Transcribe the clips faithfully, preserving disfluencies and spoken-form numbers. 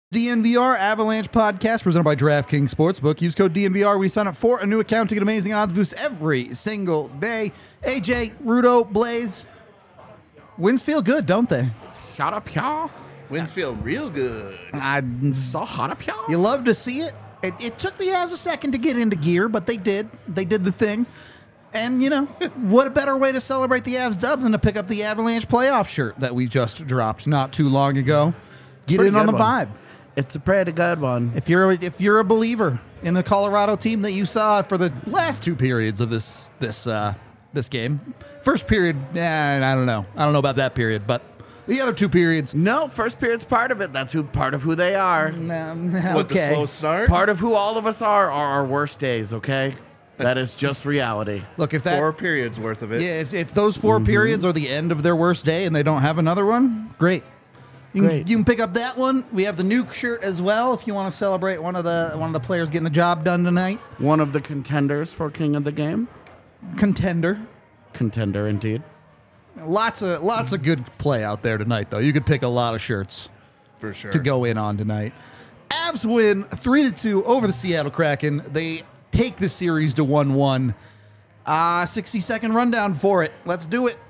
D N V R Avalanche podcast presented by DraftKings Sportsbook. Use code D N V R when you sign up for a new account to get amazing odds boosts every single day. A J, Rudo, Blaze. Wins feel good, don't they? Shut up, y'all. Wins feel real good. I, So hot up, y'all. you love to see it. it. It took the Avs a second to get into gear, but they did. They did the thing. And, you know, what a better way to celebrate the Avs dub than to pick up the Avalanche playoff shirt that we just dropped not too long ago. Get Pretty in on the good one. vibe. It's a pretty good one. If you're a, if you're a believer in the Colorado team that you saw for the last two periods of this this uh, this game, first period, eh, I don't know, I don't know about that period, but the other two periods, No, first period's part of it. That's who part of who they are. um, What, the okay. slow start? Part of who all of us are are our worst days, okay? That is just reality. Look, if that Four periods worth of it. yeah, if, if those 4 periods are the end of their worst day and they don't have another one, great. You can, Great. you can pick up that one. We have the nuke shirt as well if you want to celebrate one of the one of the players getting the job done tonight. One of the contenders for King of the Game. Contender. Contender, indeed. Lots of lots of good play out there tonight, though. You could pick a lot of shirts For sure. to go in on tonight. Avs win three to two over the Seattle Kraken. They take the series to one one. Uh, sixty second rundown for it. Let's do it.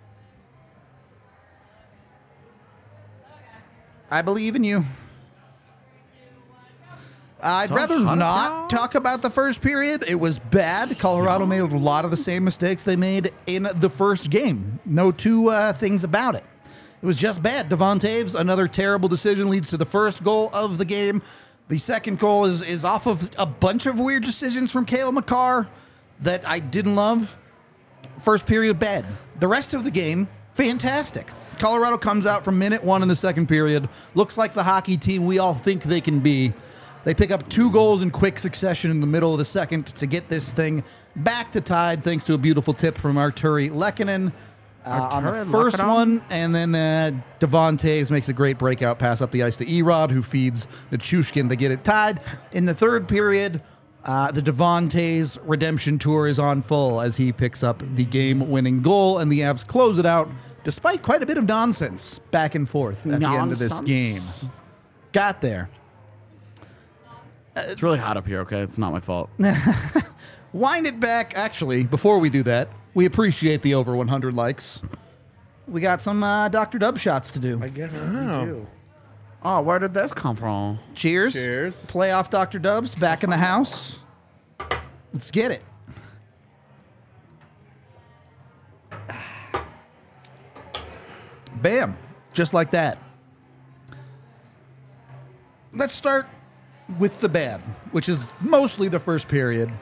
I believe in you. I'd So rather hot not now. talk about the first period. It was bad. Colorado made a lot of the same mistakes they made in the first game. No two uh, things about it. It was just bad. Devon Taves, another terrible decision, leads to the first goal of the game. The second goal is, is off of a bunch of weird decisions from Cale Makar that I didn't love. First period, bad. The rest of the game, fantastic. Colorado comes out from minute one in the second period. Looks like the hockey team we all think they can be. They pick up two goals in quick succession in the middle of the second to get this thing back to tied, thanks to a beautiful tip from Arturi Lehkonen uh, on the Arturi first Lehkonen? one. And then uh, Devon Taves makes a great breakout pass up the ice to Erod, who feeds Nichushkin to get it tied. In the third period, uh, the Devon Taves redemption tour is on full as he picks up the game-winning goal, and the Avs close it out despite quite a bit of nonsense back and forth at the end of this game. Nonsense. Got there. It's really hot up here, okay? It's not my fault. Wind it back. Actually, before we do that, we appreciate the over one hundred likes. We got some uh, Doctor Dub shots to do. I guess we do. Oh, where did this come from? Cheers. Cheers. Playoff Doctor Dubs back in the house. Let's get it. Bam. Just like that. Let's start with the bad, which is mostly the first period.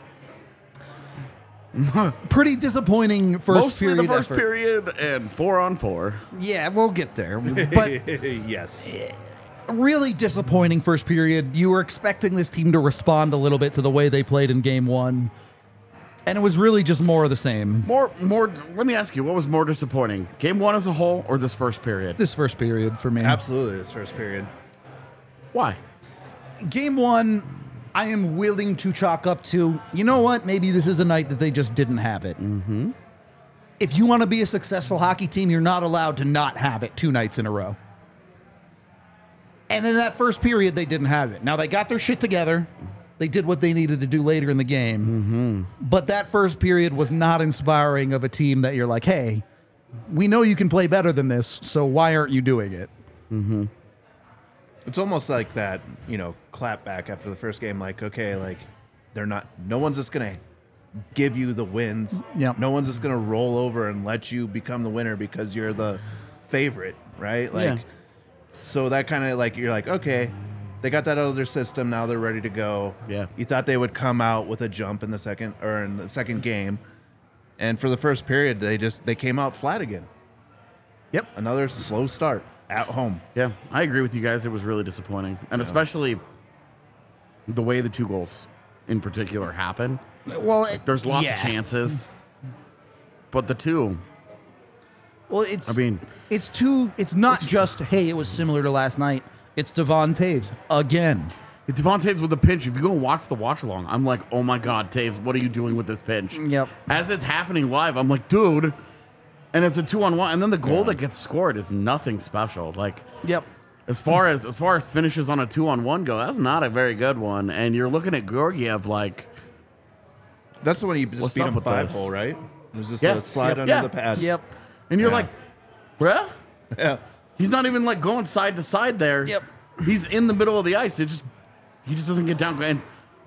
Pretty disappointing first Mostly period the first effort. period and four on four. Yeah, we'll get there. But Yes. really disappointing first period. You were expecting this team to respond a little bit to the way they played in game one. And it was really just more of the same. More, more. Let me ask you, what was more disappointing, game one as a whole, or this first period? This first period for me. Absolutely, this first period. Why? Game one, I am willing to chalk up to, you know what? Maybe this is a night that they just didn't have it. Mm-hmm. If you want to be a successful hockey team, you're not allowed to not have it two nights in a row. And then that first period, they didn't have it. Now, they got their shit together. They did what they needed to do later in the game. Mm-hmm. But that first period was not inspiring of a team that you're like, hey, we know you can play better than this, so why aren't you doing it? Mm-hmm. It's almost like that, you know, clap back after the first game. Like, okay, like they're not. No one's just gonna give you the wins. Yep. No one's just gonna roll over and let you become the winner because you're the favorite, right? Like, Yeah. so that kind of like you're like, okay, they got that out of their system. Now they're ready to go. Yeah. You thought they would come out with a jump in the second or in the second game, and for the first period, they just they came out flat again. Yep. Another slow start at home. Yeah, I agree with you guys. It was really disappointing, and especially the way the two goals in particular happened. Well, it, There's lots yeah. of chances, but the two. Well, it's. I mean, it's too. It's not just hey, it was similar to last night. It's Devon Taves again. Devon Taves with a pinch. If you go and watch the watch along, I'm like, oh my god, Taves, what are you doing with this pinch? Yep. As it's happening live, I'm like, dude. And it's a two on one, and then the goal that gets scored is nothing special. Like, Yep. as far as as far as finishes on a two on one go, that's not a very good one. And you're looking at Georgiev like, That's the one you just What's beat up him with five this? hole, right? It was just yeah, a slide yep, under yeah, the pads. Yep. And you're Yeah. like, bruh, Yeah. he's not even like going side to side there. Yep. He's in the middle of the ice. It just he just doesn't get down. And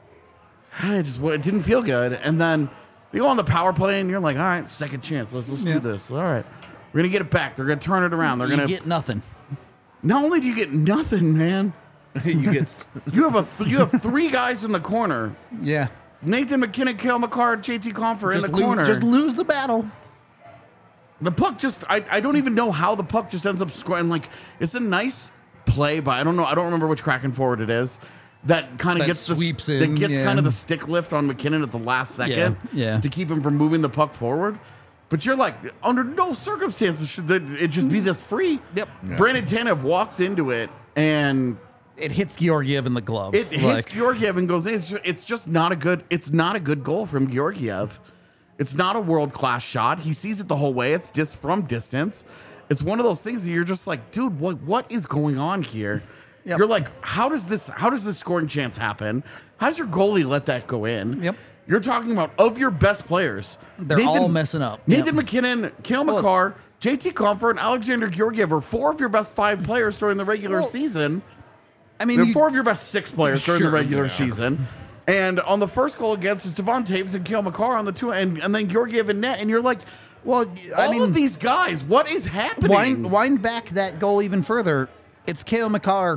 it just it didn't feel good. And then you go on the power play and you're like, all right, second chance. Let's let's Yeah. do this. All right. We're gonna get it back. They're gonna turn it around. They're You gonna get nothing. not only do you get nothing, man. you get You have a th- you have three guys in the corner. Yeah. Nathan McKinnon, Kale McCarr, J T Confer in the Just lo- corner. Just lose the battle. The puck just, I, I don't even know how the puck just ends up scoring. Like, it's a nice play, but I don't know. I don't remember which Kraken forward it is that kind of That gets the, sweeps that in, gets yeah. kind of the stick lift on McKinnon at the last second Yeah, yeah. to keep him from moving the puck forward. But you're like, under no circumstances should that it just be this free. Yep. Yeah. Brandon Tanev walks into it and It hits Georgiev in the glove. it hits Like, Georgiev and goes in. It's just, it's just not a good. It's not a good goal from Georgiev. It's not a world class shot. He sees it the whole way. It's just from distance. It's one of those things that you're just like, dude, what what is going on here? Yep. You're like, how does this how does this scoring chance happen? How does your goalie let that go in? Yep. You're talking about of your best players. They're all messing up. Nathan Yep. McKinnon, Kale Well- McCarr, J T Comfort, and Alexander Georgiev are four of your best five players during the regular Well, season. I mean, They're you- four of your best six players during Sure, the regular yeah. season. And on the first goal against, it's Devon Taves and Kale McCarr on the two, and, and then Georgiev and net, and you're like, well, I all mean, of these guys, what is happening? wind, wind back that goal even further. It's Kale McCarr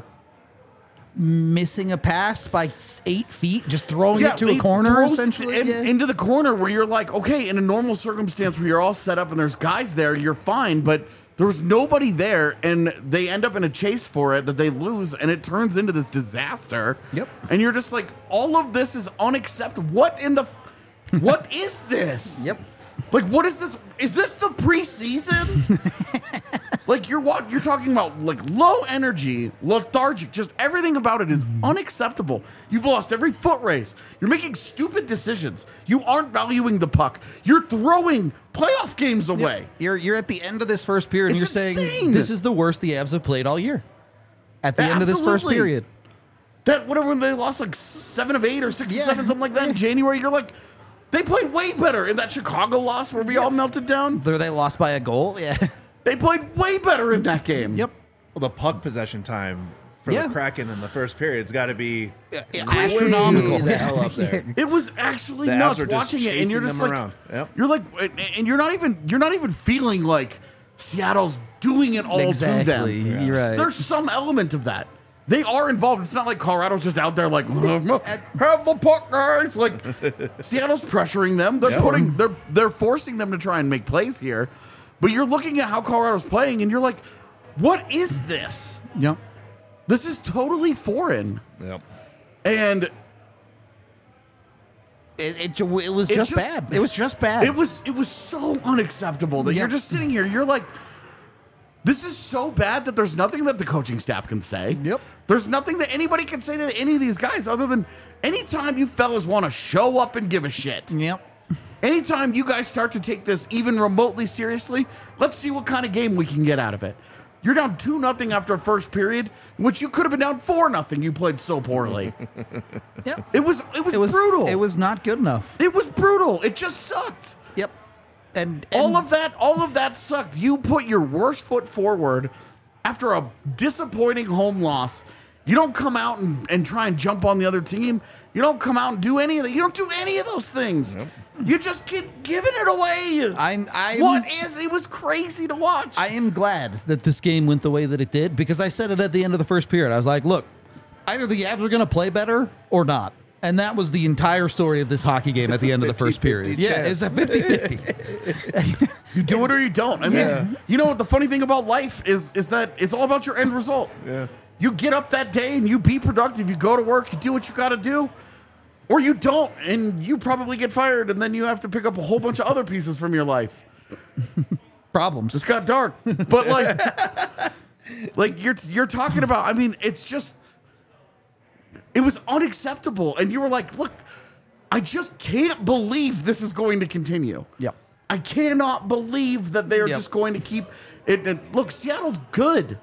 missing a pass by s- eight feet, just throwing it to a he corner, throws essentially. in- yeah. into the corner where you're like, okay, in a normal circumstance where you're all set up and there's guys there, you're fine, but there was nobody there, and they end up in a chase for it that they lose, and it turns into this disaster. Yep. And you're just like, all of this is unacceptable. What in the, f- what is this? Yep. Like, what is this? Is this the preseason? Like you're what you're talking about, like low energy, lethargic, just everything about it is unacceptable. You've lost every foot race. You're making stupid decisions. You aren't valuing the puck. You're throwing playoff games away. You're you're at the end of this first period, and It's you're saying insane. this is the worst the Avs have played all year. At the end of this first Absolutely. period, That whatever when they lost like seven of eight or six Yeah. of seven, something like that in Yeah. January, you're like, they played way better in that Chicago loss where we all melted down. There they lost by a goal. Yeah. They played way better in that game. Yep. well, the puck possession time for Yeah. the Kraken in the first period's got to be Astronomical. way the hell up there. It was actually The nuts Avs are just watching it, and you're chasing just them like, around. Yep. you're like, and you're not even, you're not even feeling like Seattle's doing it all Exactly. to them. You're right. There's some element of that. They are involved. It's not like Colorado's just out there like, have the puck, guys. Like Seattle's pressuring them. They're Yeah. putting, they're they're forcing them to try and make plays here. But you're looking at how Colorado's playing, and you're like, what is this? Yep. This is totally foreign. Yep. And It, it, ju- it was It just, just- bad. It was just bad. It was it was so unacceptable that Yeah. you're just sitting here. You're like, this is so bad that there's nothing that the coaching staff can say. Yep. There's nothing that anybody can say to any of these guys other than anytime you fellas want to show up and give a shit. Yep. Anytime you guys start to take this even remotely seriously, let's see what kind of game we can get out of it. You're down two nothing after first period, which you could have been down four nothing. You played so poorly. Yep. It was it was It was brutal. It was not good enough. it was brutal. It just sucked. Yep. And, All and- of that, all of that sucked. You put your worst foot forward after a disappointing home loss. You don't come out and, and try and jump on the other team. You don't come out and do any of that. You don't do any of those things. You just keep giving it away. I'm I'm what is? It was crazy to watch. I am glad that this game went the way that it did because I said it at the end of the first period. I was like, look, either the Avs are going to play better or not. And that was the entire story of this hockey game at the end of the first period. Yeah, it's a fifty-fifty. you do it or you don't. I mean, Yeah. you know what the funny thing about life is? Is that it's all about your end result. Yeah. You get up that day and you be productive. You go to work. You do what you got to do. Or you don't, and you probably get fired, and then you have to pick up a whole bunch of other pieces from your life. Problems. It's got dark, but like, like you're you're talking about. I mean, it's just, it was unacceptable, and you were like, "Look, I just can't believe this is going to continue. Yep. I cannot believe that they're Yep. just going to keep it." it look, Seattle's good.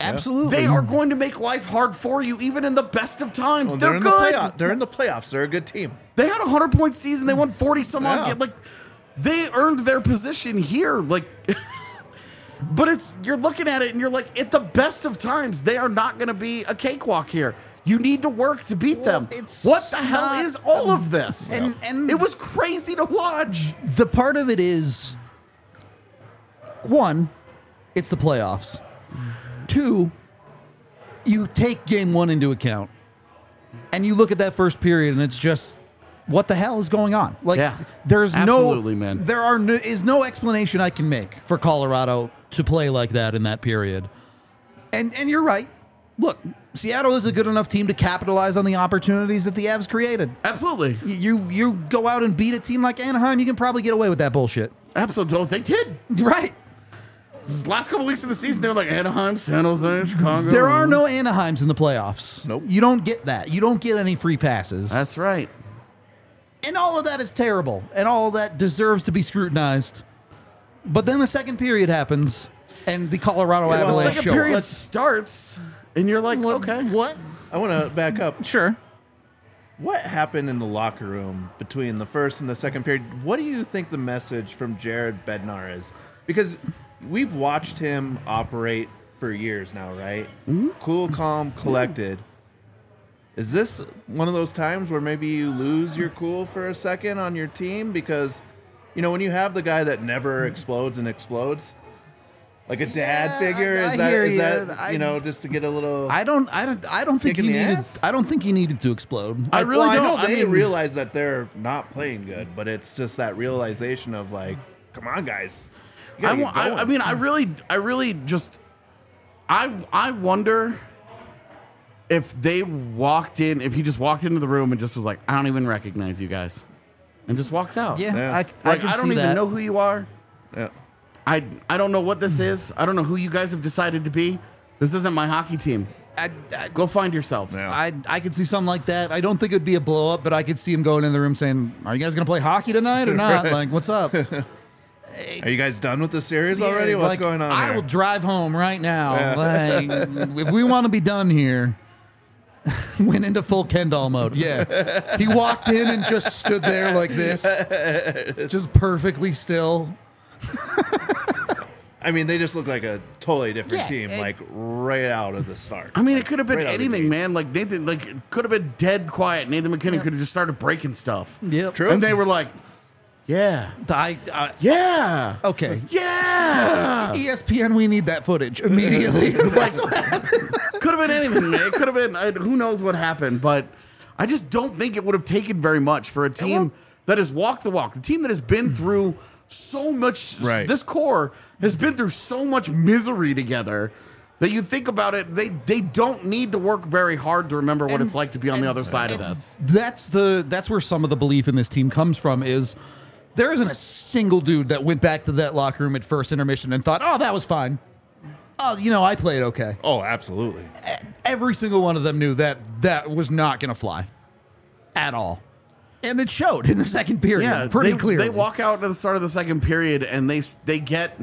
Absolutely. They are going to make life hard for you, even in the best of times. Well, they're, they're in good. the playoff. They're in the playoffs. They're a good team. They had a hundred point season. They won forty some odd. Yeah. ga- Like they earned their position here. Like, but it's you're looking at it and you're like, at the best of times, they are not going to be a cakewalk here. You need to work to beat Well, them. it's What the hell not- is all of this? And- and- it was crazy to watch. The part of it is one, it's the playoffs. Two, you take game one into account and you look at that first period and it's just what the hell is going on? Like Yeah. there's Absolutely, no man. there are no, is no explanation I can make for Colorado to play like that in that period. And and you're right. Look, Seattle is a good enough team to capitalize on the opportunities that the Avs created. Absolutely. You you go out and beat a team like Anaheim, you can probably get away with that bullshit. Absolutely. They did. Right. This last couple weeks of the season, they were like Anaheim, San Jose, Chicago. There are no Anaheims in the playoffs. Nope. You don't get that. You don't get any free passes. That's right. And all of that is terrible. And all of that deserves to be scrutinized. But then the second period happens and the Colorado well, The Avalanche second show period up. starts, and you're like, What- okay. What? I want to back up. Sure. What happened in the locker room between the first and the second period? What do you think the message from Jared Bednar is? Because we've watched him operate for years now, right? Mm-hmm. Cool, calm, collected. Is this one of those times where maybe you lose your cool for a second on your team? Because, you know, when you have the guy that never explodes and explodes, like a dad Yeah, figure, I- I is that, hear is ya. that I- you know, just to get a little... I don't I don't I don't think Kick he in the needed ass? I don't think he needed to explode. I really well, don't. I know they mean, realize that they're not playing good, but it's just that realization of like, come on, guys. You I, gotta wa- get I, going. I mean, I really, I really just, I, I wonder if they walked in, if he just walked into the room and just was like, I don't even recognize you guys, and just walks out. Yeah, Yeah. I, I like can I, don't see even that. know who you are. yeah. I, I don't know what this is. I don't know who you guys have decided to be. This isn't my hockey team. I, I, Go find yourselves. Yeah. I I could see something like that. I don't think it'd be a blow up, but I could see him going in the room saying, "Are you guys gonna play hockey tonight or not? Like, what's up?" Are you guys done with the series already? Yeah, What's like, going on I here? will drive home right now. Like, if we want to be done here, went into full Kendall mode. Yeah, he walked in and just stood there like this, just perfectly still. I mean, they just look like a totally different Yeah, team, it- like right out of the start. I mean, it could have been Right out of the anything, gates. man. Like Nathan, like it could have been dead quiet. Nathan McKinnon could have just started breaking stuff. Yep. True. And they were like, "Yeah, I, I, yeah, okay. yeah." E S P N, we need that footage immediately. Like, could have been anything, man. It could have been. I, who knows what happened? But I just don't think it would have taken very much for a team well- that has walked the walk, the team that has been through so much. Right. This core has been through so much misery together. That you think about it, they they don't need to work very hard to remember what And- it's like to be on the and- other side of and this. That's the that's where some of the belief in this team comes from. Is there isn't a single dude that went back to that locker room at first intermission and thought, "Oh, that was fine. Oh, you know, I played okay." Oh, absolutely. Every single one of them knew that that was not going to fly at all, and it showed in the second period. Yeah, pretty they, clearly. They walk out at the start of the second period and they they get.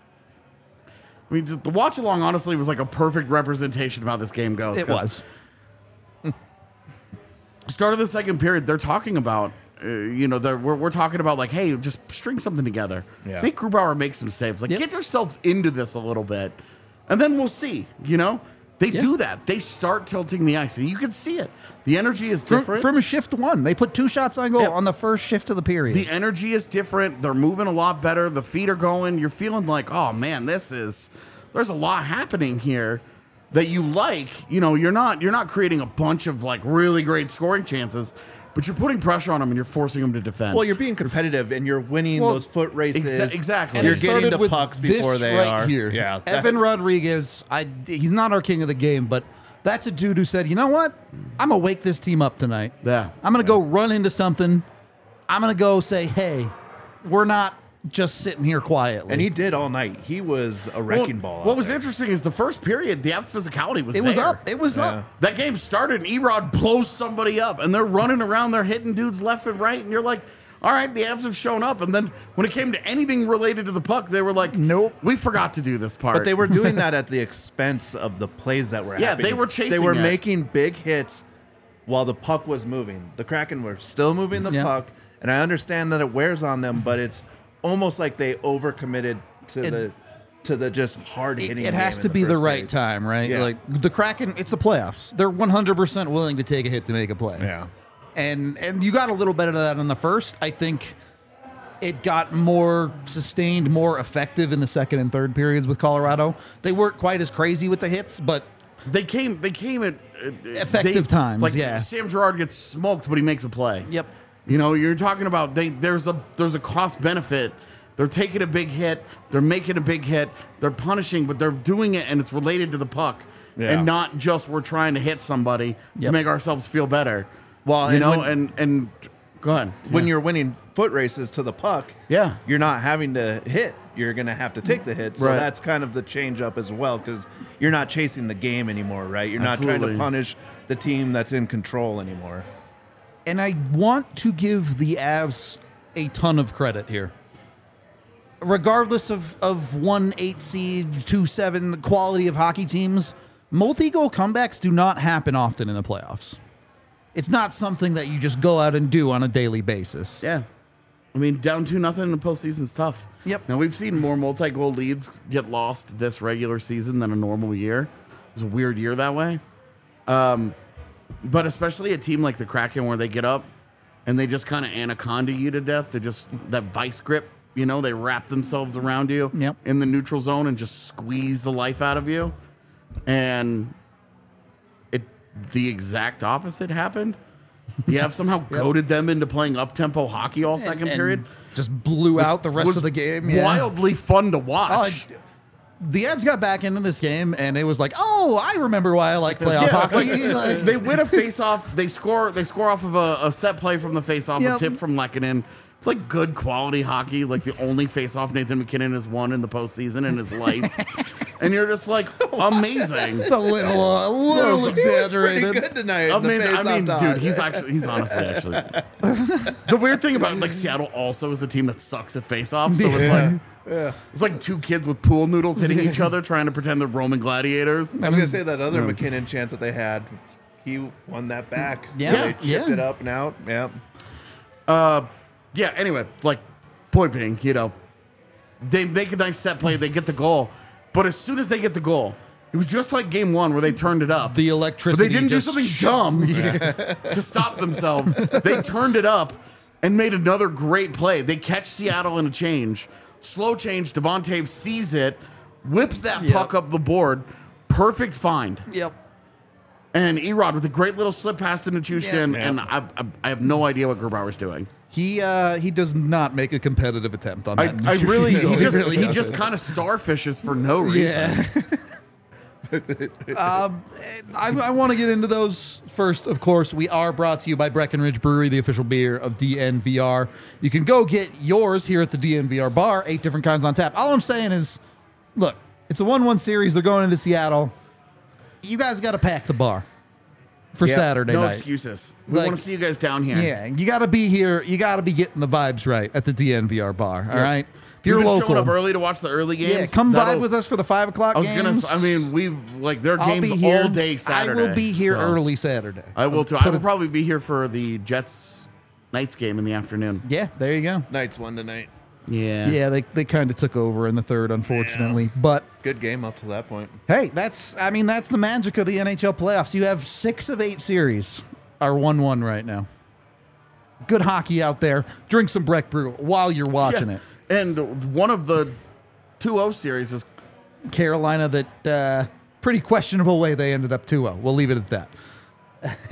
I mean, just the watch along honestly was like a perfect representation of how this game goes. It 'cause was. Start of the second period, they're talking about, uh, you know, they're, we're, we're talking about like, hey, just string something together. Yeah. Make Grubauer make some saves. Like, Yep. get yourselves into this a little bit, and then we'll see. You know, they Yeah. do that. They start tilting the ice, and you can see it. The energy is From, different. from a shift one, they put two shots on goal Yep. on the first shift of the period. The energy is different. They're moving a lot better. The feet are going. You're feeling like, oh man, this is. There's a lot happening here that you like. You know, you're not you're not creating a bunch of like really great scoring chances, but you're putting pressure on them and you're forcing them to defend. Well, you're being competitive and you're winning Well, those foot races. exa- exactly. And You're it getting started the with pucks this before they right are. here. Yeah. Evan Rodriguez, I he's not our king of the game, but that's a dude who said, "You know what? I'm gonna wake this team up tonight. Yeah. I'm gonna go run into something. I'm gonna go say, hey, we're not just sitting here quietly." And he did all night. He was a Well, wrecking ball. What out was there. interesting is the first period, the Avs physicality was it was there. up. It was Yeah. up. That game started and Erod blows somebody up and they're running around, they're hitting dudes left and right, and you're like, all right, the Avs have shown up. And then when it came to anything related to the puck, they were like, Nope. we forgot to do this part. But they were doing that at the expense of the plays that were Yeah, happening. they were chasing They were it. making big hits while the puck was moving. The Kraken were still moving the Yeah. puck, and I understand that it wears on them, but it's almost like they overcommitted to It- the to the just hard It, hitting. it has to be the right time, right? Yeah. Like the Kraken, it's the playoffs. They're one hundred percent willing to take a hit to make a play. Yeah. And and you got a little bit of that in the first. I think it got more sustained, more effective in the second and third periods with Colorado. They weren't quite as crazy with the hits, but They came. They came at uh, Effective they- times, Like yeah. Sam Girard gets smoked, but he makes a play. Yep. You know, you're talking about they. There's a there's a cost benefit. They're taking a big hit. They're making a big hit. They're punishing, but they're doing it, and it's related to the puck, Yeah. and not just we're trying to hit somebody Yep. to make ourselves feel better. Well, you and know, when- and and go ahead. When Yeah. you're winning foot races to the puck, Yeah. you're not having to hit. You're going to have to take the hit. So Right. that's kind of the change up as well, because you're not chasing the game anymore, right? You're not trying Absolutely. to punish the team that's in control anymore. and I want to give the Avs a ton of credit here. Regardless of, of one eight seed, two seven, the quality of hockey teams, multi-goal comebacks do not happen often in the playoffs. It's not something that you just go out and do on a daily basis. Yeah. I mean, down two nothing in the postseason's tough. Yep. Now we've seen more multi-goal leads get lost this regular season than a normal year. It was a weird year that way. Um, but especially a team like the Kraken where they get up and they just kind of anaconda you to death. They just that vice grip, you know, they wrap themselves around you Yep. in the neutral zone and just squeeze the life out of you. And it the exact opposite happened. The Avs somehow goaded them into playing up-tempo hockey all second And- and period. just blew out the rest Was of the game. Yeah. Wildly fun to Oh, watch. and the Avs got back into this game, and it was like, oh, I remember why I like playoff Yeah, hockey. Like, they win a face-off. They score. They score off of a, a set play from the face-off. Yep. A tip from Lehkonen. It's like good quality hockey. Like the only face-off Nathan McKinnon has won in the postseason in his life. And you're just like amazing. it's a little, uh, a little Pretty exaggerated. good tonight. in the Amazing. I face-off mean, talk. dude, he's actually he's honestly actually the weird thing about like Seattle also is a team that sucks at face-offs. So it's like it's like two kids with pool noodles hitting each other trying to pretend they're Roman gladiators. I was gonna say that other McKinnon chance that they had, he won that back. Yeah, they chipped yeah. it up and out. Yeah, Uh, yeah. Anyway, like point being, you know, they make a nice set play, they get the goal, but as soon as they get the goal, it was just like game one where they turned it up. The But electricity they didn't do just something sh- dumb to stop themselves. They turned it up and made another great play. They catch Seattle in a change, slow change. Devon Taves sees it, whips that Yep. puck up the board, perfect find. Yep. And Erod with a great little slip pass to Nichushkin, Yeah. and I, I, I have no idea what Grubauer's doing. He uh, he does not make a competitive attempt on I, that. I really, he just, really he doesn't. just kind of starfishes for no reason. Yeah. um, I, I want to get into those first. Of course, we are brought to you by Breckenridge Brewery, the official beer of D N V R. You can go get yours here at the D N V R bar. Eight different kinds on tap. All I'm saying is, look, it's a one-one series. They're going into Seattle. You guys got to pack the bar for Yeah, Saturday No night. excuses. We Like- want to see you guys down here. Yeah, you got to be here. You got to be getting the vibes right at the D N V R bar. All right, if You're you're local, showing up early to watch the early games. yeah, come That'll- vibe with us for the five o'clock I was games. gonna. I mean, we like there are I'll games be here all day Saturday. I will be here so- early Saturday. I will too. Put I will it- probably be here for the Jets Knights game in the afternoon. Yeah, there you go. Knights won tonight. Yeah. Yeah, they they kind of took over in the third, unfortunately. But Good game up to that point. hey, that's I mean that's the magic of the N H L playoffs. You have six of eight series are one-one right now. Good hockey out there. Drink some Breck Brew while you're watching Yeah. it. And one of the two oh series is Carolina, that uh, pretty questionable way they ended up two oh. We'll leave it at that.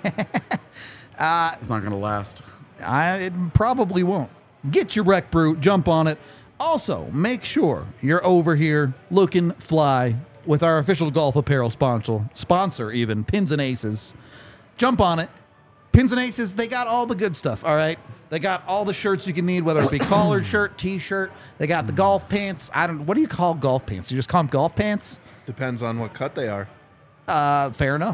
it's not going to last. I it probably won't. Get your Breck Brew, jump on it. Also, make sure you're over here looking fly with our official golf apparel sponsor, sponsor even, Pins and Aces. Jump on it. Pins and Aces, they got all the good stuff, all right? They got all the shirts you can need, whether it be collared shirt, t-shirt. They got the golf pants. I don't. What do you call golf pants? You just call them golf pants? Depends on what cut they are. Uh, fair enough.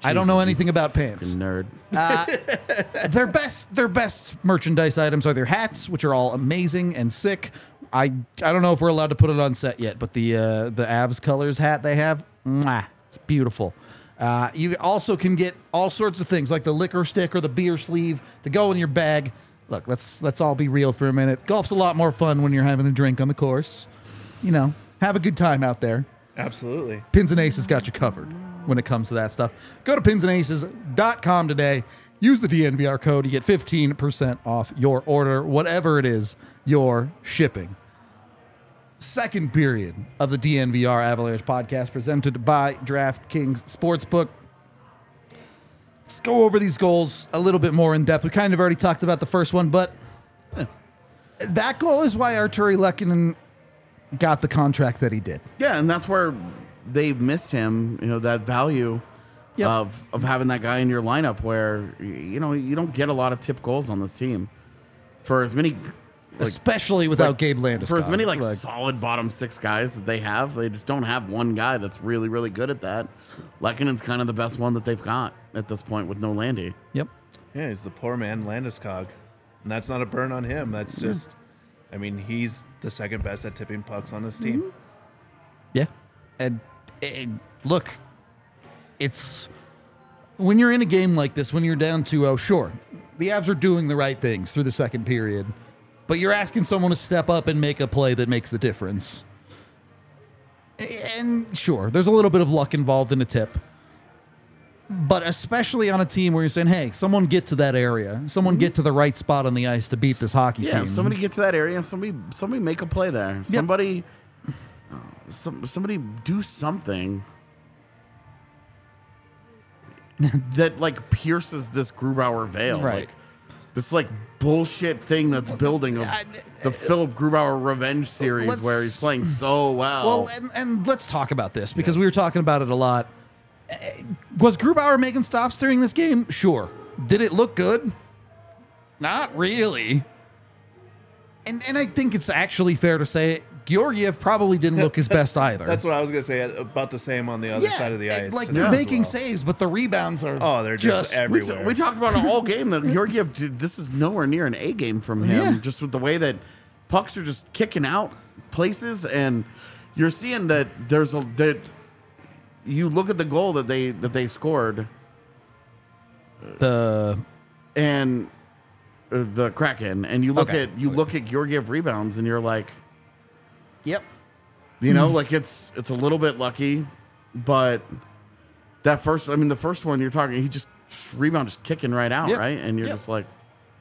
I don't know Jesus, anything you about pants. Nerd. their best their best merchandise items are their hats, which are all amazing and sick. I I don't know if we're allowed to put it on set yet, but the uh, the Avs colors hat they have, mwah, it's beautiful. Uh, you also can get all sorts of things like the liquor stick or the beer sleeve to go in your bag. Look, let's let's all be real for a minute. Golf's a lot more fun when you're having a drink on the course. You know, have a good time out there. Absolutely. Pins and Aces got you covered when it comes to that stuff. Go to pins and aces dot com today. Use the D N V R code. You get fifteen percent off your order, whatever it is you're shipping. Second period of the D N V R Avalanche podcast presented by DraftKings Sportsbook. Let's go over these goals a little bit more in depth. We kind of already talked about the first one, but eh, that goal is why Arturi Lehkonen got the contract that he did. Yeah, and that's where they missed him. You know, that value Yep. of of having that guy in your lineup, where you know you don't get a lot of tip goals on this team for as many. Like, Especially without like, Gabe Landeskog. for as many like, solid bottom six guys that they have, they just don't have one guy that's really, really good at that. Lekkonen's kind of the best one that they've got at this point with no Landy. Yep. Yeah, he's the poor man Landeskog. And that's not a burn on him. That's just, I mean, he's the second best at tipping pucks on this team. Mm-hmm. Yeah. And, and look, it's when you're in a game like this, when you're down two oh, sure, the Avs are doing the right things through the second period, but you're asking someone to step up and make a play that makes the difference. And sure, there's a little bit of luck involved in a tip, but especially on a team where you're saying, hey, someone get to that area, someone get to the right spot on the ice to beat this hockey Yeah, team. somebody get to that area and somebody somebody make a play there. Somebody uh, some, somebody do something that like pierces this Grubauer veil. Right. Like this like bullshit thing that's building of the Philip Grubauer revenge series Let's- where he's playing so well. Well, and, and let's talk about this because we were talking about it a lot. Uh, Was Grubauer making stops during this game? Sure. Did it look good? Not really. And and I think it's actually fair to say Georgiev probably didn't look his That's- best either. That's what I was going to say. About the same on the other yeah, side of the and, ice. like today they're as making well. saves, but the rebounds are Oh, they're just, we, everywhere. t- we talked about it all game that Georgiev, did- this is nowhere near an A game from him. Yeah. Just with the way that pucks are just kicking out places, and you're seeing that there's a that you look at the goal that they that they scored the and uh, the Kraken, and you look Okay. at you look at Georgiev rebounds, and you're like, Yep. you know, like it's it's a little bit lucky, but that first, I mean, the first one you're talking, he just rebound just kicking right out, Yep. right, and you're Yep. just like.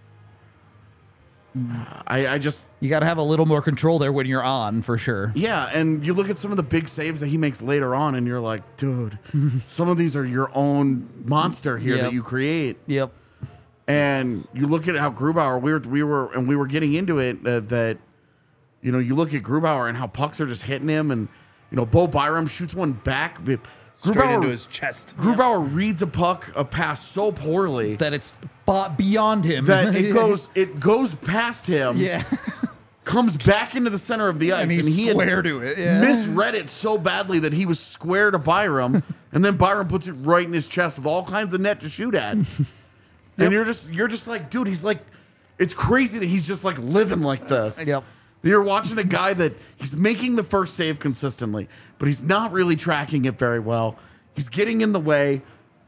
I, I just You got to have a little more control there when you're on, for sure. yeah, and you look at some of the big saves that he makes later on, and you're like, dude, some of these are your own monster here Yep. that you create. Yep. And you look at how Grubauer, we were we were and we were getting into it uh, that, you know, you look at Grubauer and how pucks are just hitting him, and you know, Bo Byram shoots one back. Grubauer, Straight into his chest. Grubauer reads a puck, a pass so poorly That it's bo- beyond him. that it goes it goes past him. Yeah. Comes back into the center of the ice, And he's he had square to it. Yeah. misread it so badly that he was square to Byram, and then Byram puts it right in his chest with all kinds of net to shoot at. And you're just you're just like, dude, he's like, it's crazy that he's just like living like this. Yep. You're watching a guy that he's making the first save consistently, but he's not really tracking it very well. He's getting in the way,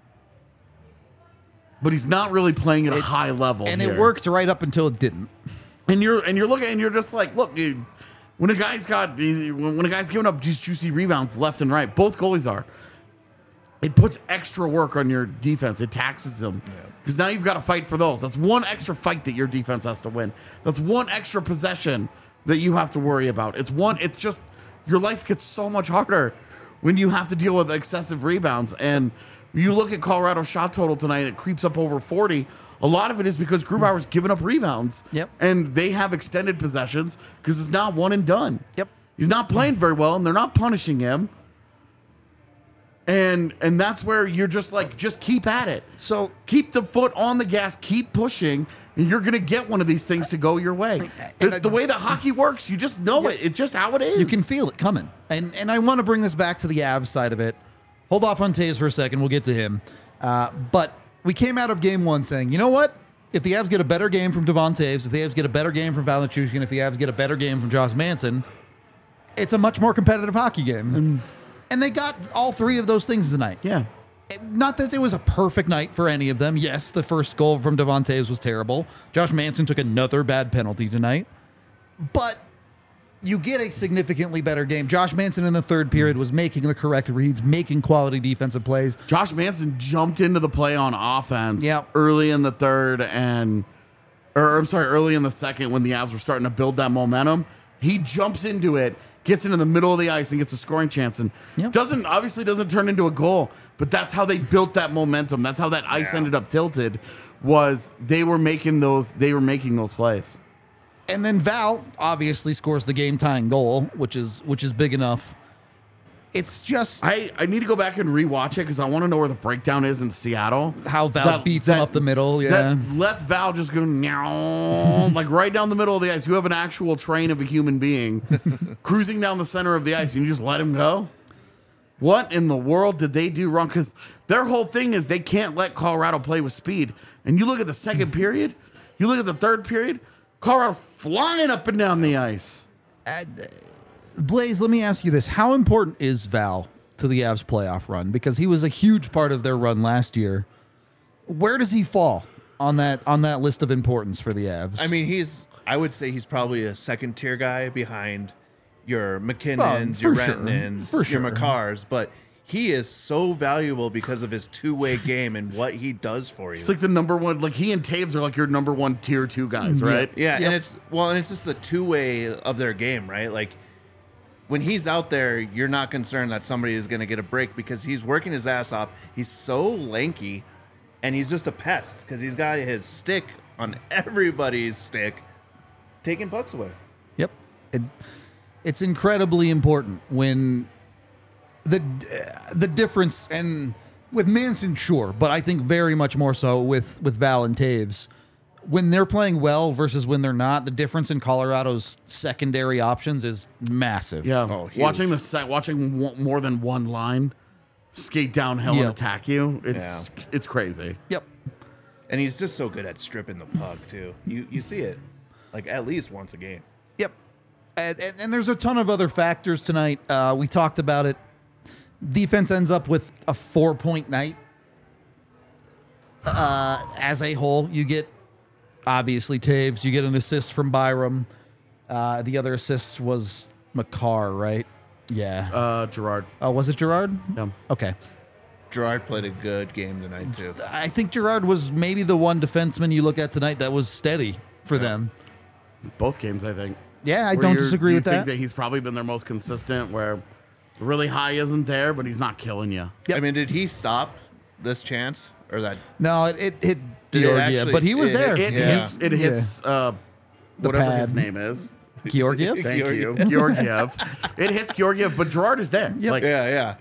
but he's not really playing at a high level. And here. it worked right up until it didn't. And you're and you're looking and you're just like, look, dude, when a guy's got when when a guy's giving up these juicy rebounds left and right, both goalies are. It puts extra work on your defense. It taxes them because now you've got to fight for those. That's one extra fight that your defense has to win. That's one extra possession that you have to worry about. It's one. It's just your life gets so much harder when you have to deal with excessive rebounds. And you look at Colorado's shot total tonight; it creeps up over forty. A lot of it is because Grubauer's giving up rebounds. Yep. And they have extended possessions because it's not one and done. Yep. He's not playing very well, and they're not punishing him. And and that's where you're just like, just keep at it. So Keep the foot on the gas, keep pushing, and you're going to get one of these things to go your way. The, I- the way that hockey works, you just know it. It's just how it is. you can feel it coming. And and I want to bring this back to the Avs side of it. Hold off on Taves for a second. We'll get to him. Uh, but we came out of game one saying, you know what? If the Avs get a better game from Devon Taves, if the Avs get a better game from Val Nichushkin, if the Avs get a better game from Josh Manson, it's a much more competitive hockey game. And, and they got all three of those things tonight. Yeah. Not that it was a perfect night for any of them. Yes, the first goal from Devon Taves was terrible. Josh Manson took another bad penalty tonight. But you get a significantly better game. Josh Manson in the third period was making the correct reads, making quality defensive plays. Josh Manson jumped into the play on offense Yep. early in the third and, or I'm sorry, early in the second when the Avs were starting to build that momentum. He jumps into it, gets into the middle of the ice and gets a scoring chance and Yep. doesn't obviously doesn't turn into a goal, but that's how they built that momentum. That's how that ice Yeah. ended up tilted. Was they were making those they were making those plays. And then Val obviously scores the game-tying goal, which is which is big enough. It's just I, I need to go back and rewatch it because I want to know where the breakdown is in Seattle. how Val That- beats him that- up the middle. Yeah. That lets Val just go meow, like right down the middle of the ice. You have an actual train of a human being cruising down the center of the ice, and you just let him go. What in the world did they do wrong? Because their whole thing is they can't let Colorado play with speed. And you look at the second period, you look at the third period, Colorado's flying up and down the ice. Blaze, let me ask you this. How important is Val to the Avs playoff run? Because he was a huge part of their run last year. Where does he fall on that on that list of importance for the Avs? I mean, he's. I would say he's probably a second tier guy behind your McKinnons, Oh, your for sure. Rentonens, For your sure. Makars, but he is so valuable because of his two way game and what he does for you. It's like the number one, like he and Taves are like your number one tier two guys, right? Yeah, Yep. and it's well, and it's just the two way of their game, right? Like when he's out there, you're not concerned that somebody is going to get a break because he's working his ass off. He's so lanky, and he's just a pest because he's got his stick on everybody's stick, taking pucks away. Yep. It, it's incredibly important when the uh, the difference, and with Manson, sure, but I think very much more so with, with Val and Taves. When they're playing well versus when they're not, the difference in Colorado's secondary options is massive. Yeah, Oh, huge. watching the set, watching one, more than one line skate downhill Yeah. and attack you, it's Yeah. it's crazy. Yep. And he's just so good at stripping the puck too. You you see it like at least once a game. Yep. And, and, and there's a ton of other factors tonight. Uh, we talked about it. Defense ends up with a four-point night. Uh, as a whole, you get, obviously, Taves. You get an assist from Byram. Uh, the other assist was Makar, right? Yeah. Uh, Gerard, Oh, was it Gerard? yeah. Okay. Gerard played a good game tonight too. I think Gerard was maybe the one defenseman you look at tonight that was steady for them. both games, I think. Yeah, I Where don't you're- disagree you with think that. that he's probably been their most consistent, where the really high isn't there, but he's not killing you. Yep. I mean, did he stop this chance or that? No, it, it hit Did it Georgia, actually- but he was it- there. It Yeah. hits. It hits. Uh, The whatever his pad. name is. Georgiev? Thank you, Georgiev. Georgiev. It hits Georgiev, but Gerard is there. Yep. Like, Yeah, yeah.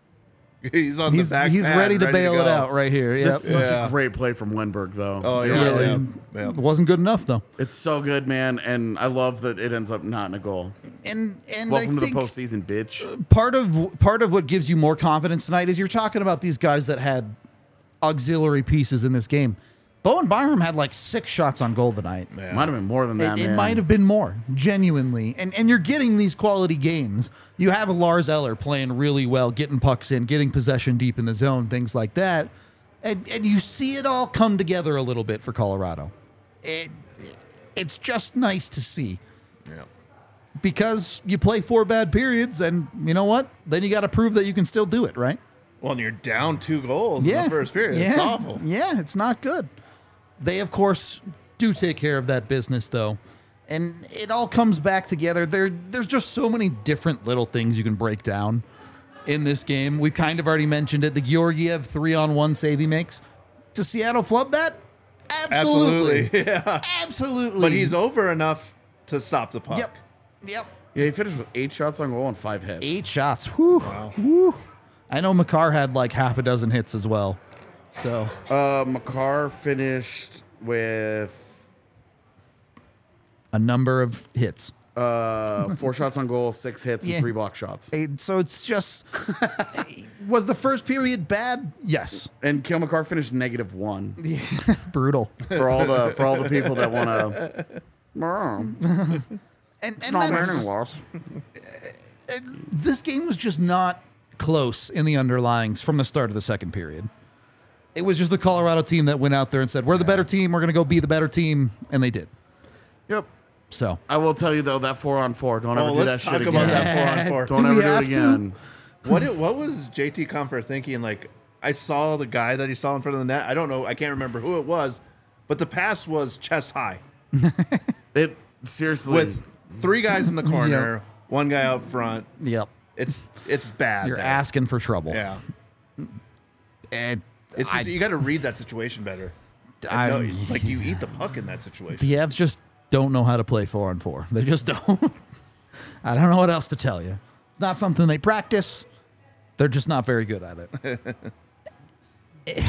He's on He's, the back. he's pad, ready to bail it go. out right here. Yep. This is such Yeah. a great play from Wenberg, though. Oh yeah, Yeah, yeah, and yeah. It wasn't good enough, though. It's so good, man, and I love that it ends up not in a goal. And and Welcome I to think the postseason, bitch. part of part of what gives you more confidence tonight is you're talking about these guys that had auxiliary pieces in this game. Bowen Byram had like six shots on goal tonight. Yeah. Might have been more than that, It, it man. might have been more, genuinely. And and you're getting these quality games. You have Lars Eller playing really well, getting pucks in, getting possession deep in the zone, things like that. And and you see it all come together a little bit for Colorado. It, it's just nice to see. Yeah. Because you play four bad periods, and you know what? Then you got to prove that you can still do it, right? Well, and you're down two goals in the first period. Yeah. It's awful. Yeah, it's not good. They, of course, do take care of that business, though. And it all comes back together. There, there's just so many different little things you can break down in this game. We kind of already mentioned it. The Georgiev three-on-one save he makes. Does Seattle flub that? Absolutely. Absolutely. Yeah. Absolutely. But he's over enough to stop the puck. Yep. Yep. Yeah, he finished with eight shots on goal and five hits. Eight shots. Whew. Whew. I know Makar had like half a dozen hits as well. So Uh, Makar finished with a number of hits. Uh, four shots on goal, six hits, Yeah. and three block shots. And so it's just, was the first period bad? Yes. And Cale Makar finished negative one Brutal. for all the for all the people that want to. It's And, and not that's- winning loss. this game was just not close in the underlyings from the start of the second period. It was just the Colorado team that went out there and said, we're the better team, we're going to go be the better team, and they did. Yep. So, I will tell you though that four on four. Don't ever Oh, do that let's shit talk again. about that four on four. Don't Do ever we do it have to? again. What it, what was J T Comfort thinking? Like, I saw the guy that he saw in front of the net. I don't know. I can't remember who it was, but the pass was chest high It seriously. with three guys in the corner, one guy out front. yep. It's it's bad. You're there. asking for trouble. Yeah. And It's I, just, you got to read that situation better. I- No, like you eat the puck in that situation. the Avs just don't know how to play four on four. They just don't. I don't know what else to tell you. It's not something they practice. They're just not very good at it.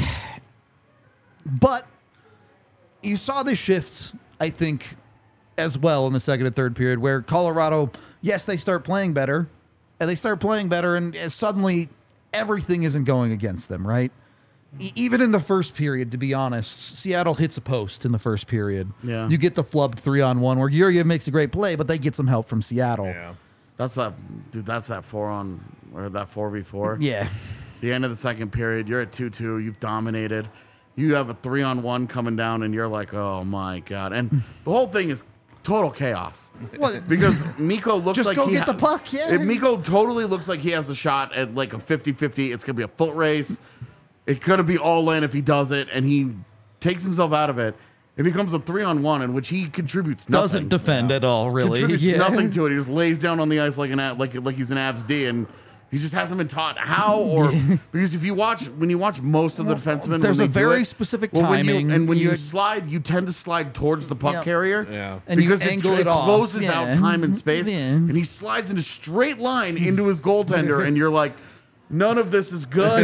But you saw the shift, I think, as well in the second and third period, where Colorado, yes, they start playing better, and they start playing better, and uh, suddenly everything isn't going against them, right? E- Even in the first period, to be honest, Seattle hits a post in the first period. Yeah. You get the flubbed three on one where Georgiev makes a great play, but they get some help from Seattle. Yeah. That's that, dude. That's that four on or that four v four. Yeah. The end of the second period, you're at two two. You've dominated. You have a three on one coming down, and you're like, oh my god! And the whole thing is total chaos. Well, Because Miko looks Just like go he get the has- puck, yeah. If Miko totally looks like he has a shot at like a fifty fifty. It's gonna be a foot race. It's gonna be all in if he does it, and he takes himself out of it. It becomes a three on one in which he contributes nothing. doesn't defend at all, really. Contributes Yeah. nothing to it. He just lays down on the ice like an a- like like he's an Avs D, and he just hasn't been taught how. Or because if you watch when you watch most of the defensemen, There's when a they do very it, specific well, when you- timing. and when you, You- slide, you tend to slide towards the puck Yep. carrier. Yeah. And you because angle it, it off. closes Yeah. out time and space, Yeah. and he slides in a straight line into his goaltender, and you're like, none of this is good,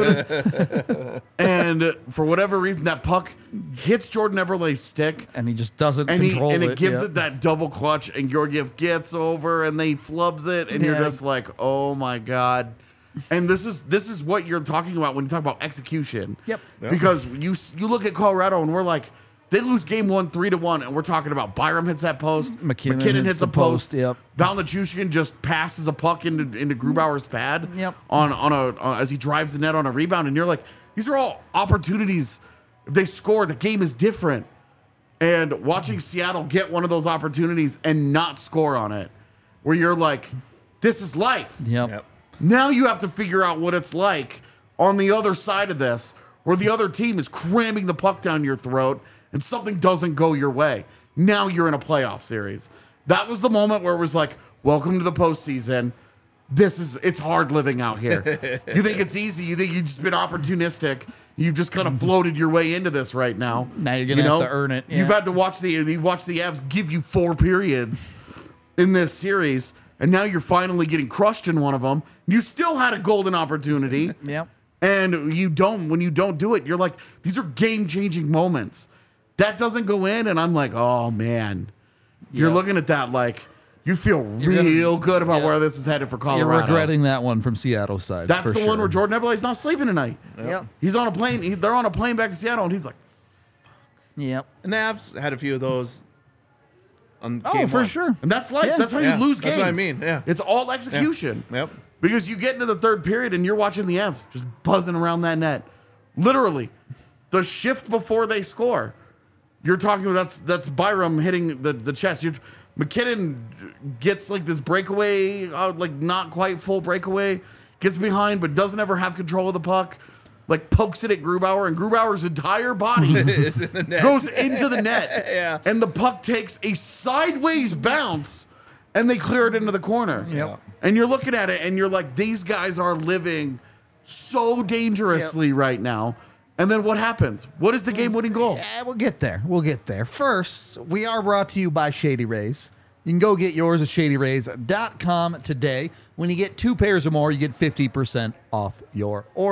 dude. And for whatever reason, that puck hits Jordan Eberle's stick. and he just doesn't And, he, control and it. it gives yeah. it that double clutch, and Georgiev gets over, and they flubs it, and you're Yeah. just like, oh my god. And this is this is what you're talking about when you talk about execution. Yep. Because you you look at Colorado, and we're like, they lose game one three to one, and we're talking about Byram hits that post, McKinnon hits, hits the the post, post, yep. Val Nichushkin just passes a puck into into Grubauer's pad, Yep. on on a on, as he drives the net on a rebound, and you're like, these are all opportunities. If they score, the game is different. And watching Seattle get one of those opportunities and not score on it, where you're like, this is life. Yep. Yep. Now you have to figure out what it's like on the other side of this, where the other team is cramming the puck down your throat and something doesn't go your way. Now you're in a playoff series. That was the moment where it was like, welcome to the postseason. This is, it's hard living out here. You think it's easy. You think you've just been opportunistic. You've just kind of floated your way into this right now. Now you're gonna You have know? to earn it. You've Yeah. had to watch the, you've watched the Avs give you four periods in this series, and now you're finally getting crushed in one of them. You still had a golden opportunity. Yep. And you don't, when you don't do it, you're like, these are game changing moments. That doesn't go in, and I'm like, oh man. You're Yeah. looking at that like, you feel You're real gonna- good about yeah. where this is headed for Colorado. You're regretting that one from Seattle's side. That's for the sure. one where Jordan Eberle's not sleeping tonight. Yep. He's on a plane. He, they're on a plane back to Seattle, and he's like, Yep. And the Avs had a few of those. On Oh, game for one. sure. and that's life. Yeah. That's how Yeah, you lose that's games. what I mean, yeah. It's all execution. Yep. Because you get into the third period and you're watching the Avs just buzzing around that net. Literally, the shift before they score. You're talking about that's that's Byram hitting the, the chest. You're, McKinnon gets like this breakaway, uh, like not quite full breakaway, gets behind but doesn't ever have control of the puck. Like pokes it at Grubauer, and Grubauer's entire body Is in the net. goes into the net. Yeah. And the puck takes a sideways bounce, and they clear it into the corner. Yep. And you're looking at it, and you're like, these guys are living so dangerously right now. And then what happens? What is the game-winning goal? Yeah, we'll get there. We'll get there. First, we are brought to you by Shady Rays. You can go get yours at shady rays dot com today. When you get two pairs or more, you get fifty percent off your order.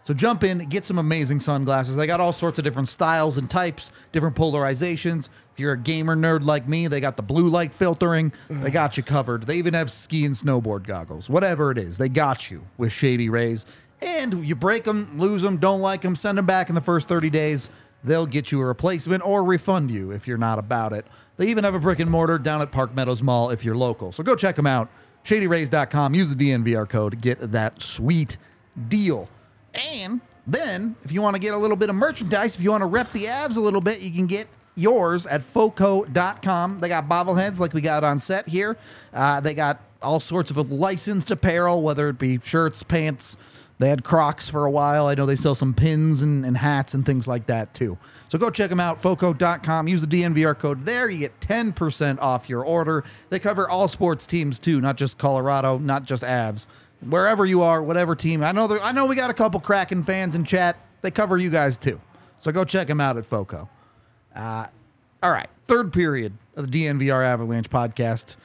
So jump in, get some amazing sunglasses. They got all sorts of different styles and types, different polarizations. If you're a gamer nerd like me, they got the blue light filtering. They got you covered. They even have ski and snowboard goggles. Whatever it is, they got you with Shady Rays. And you break them, lose them, don't like them, send them back in the first thirty days. They'll get you a replacement or refund you if you're not about it. They even have a brick and mortar down at Park Meadows Mall if you're local. So go check them out. shady rays dot com. Use the D N V R code to get that sweet deal. And then, if you want to get a little bit of merchandise, if you want to rep the Avs a little bit, you can get yours at foco dot com. They got bobbleheads like we got on set here. Uh, they got all sorts of licensed apparel, whether it be shirts, pants. They had Crocs for a while. I know they sell some pins and, and hats and things like that, too. So go check them out, foco dot com. Use the D N V R code there. You get ten percent off your order. They cover all sports teams, too, not just Colorado, not just Avs. Wherever you are, whatever team. I know there, I know we got a couple Kraken fans in chat. They cover you guys, too. So go check them out at Foco. Uh, all right, third period of the D N V R Avalanche podcast.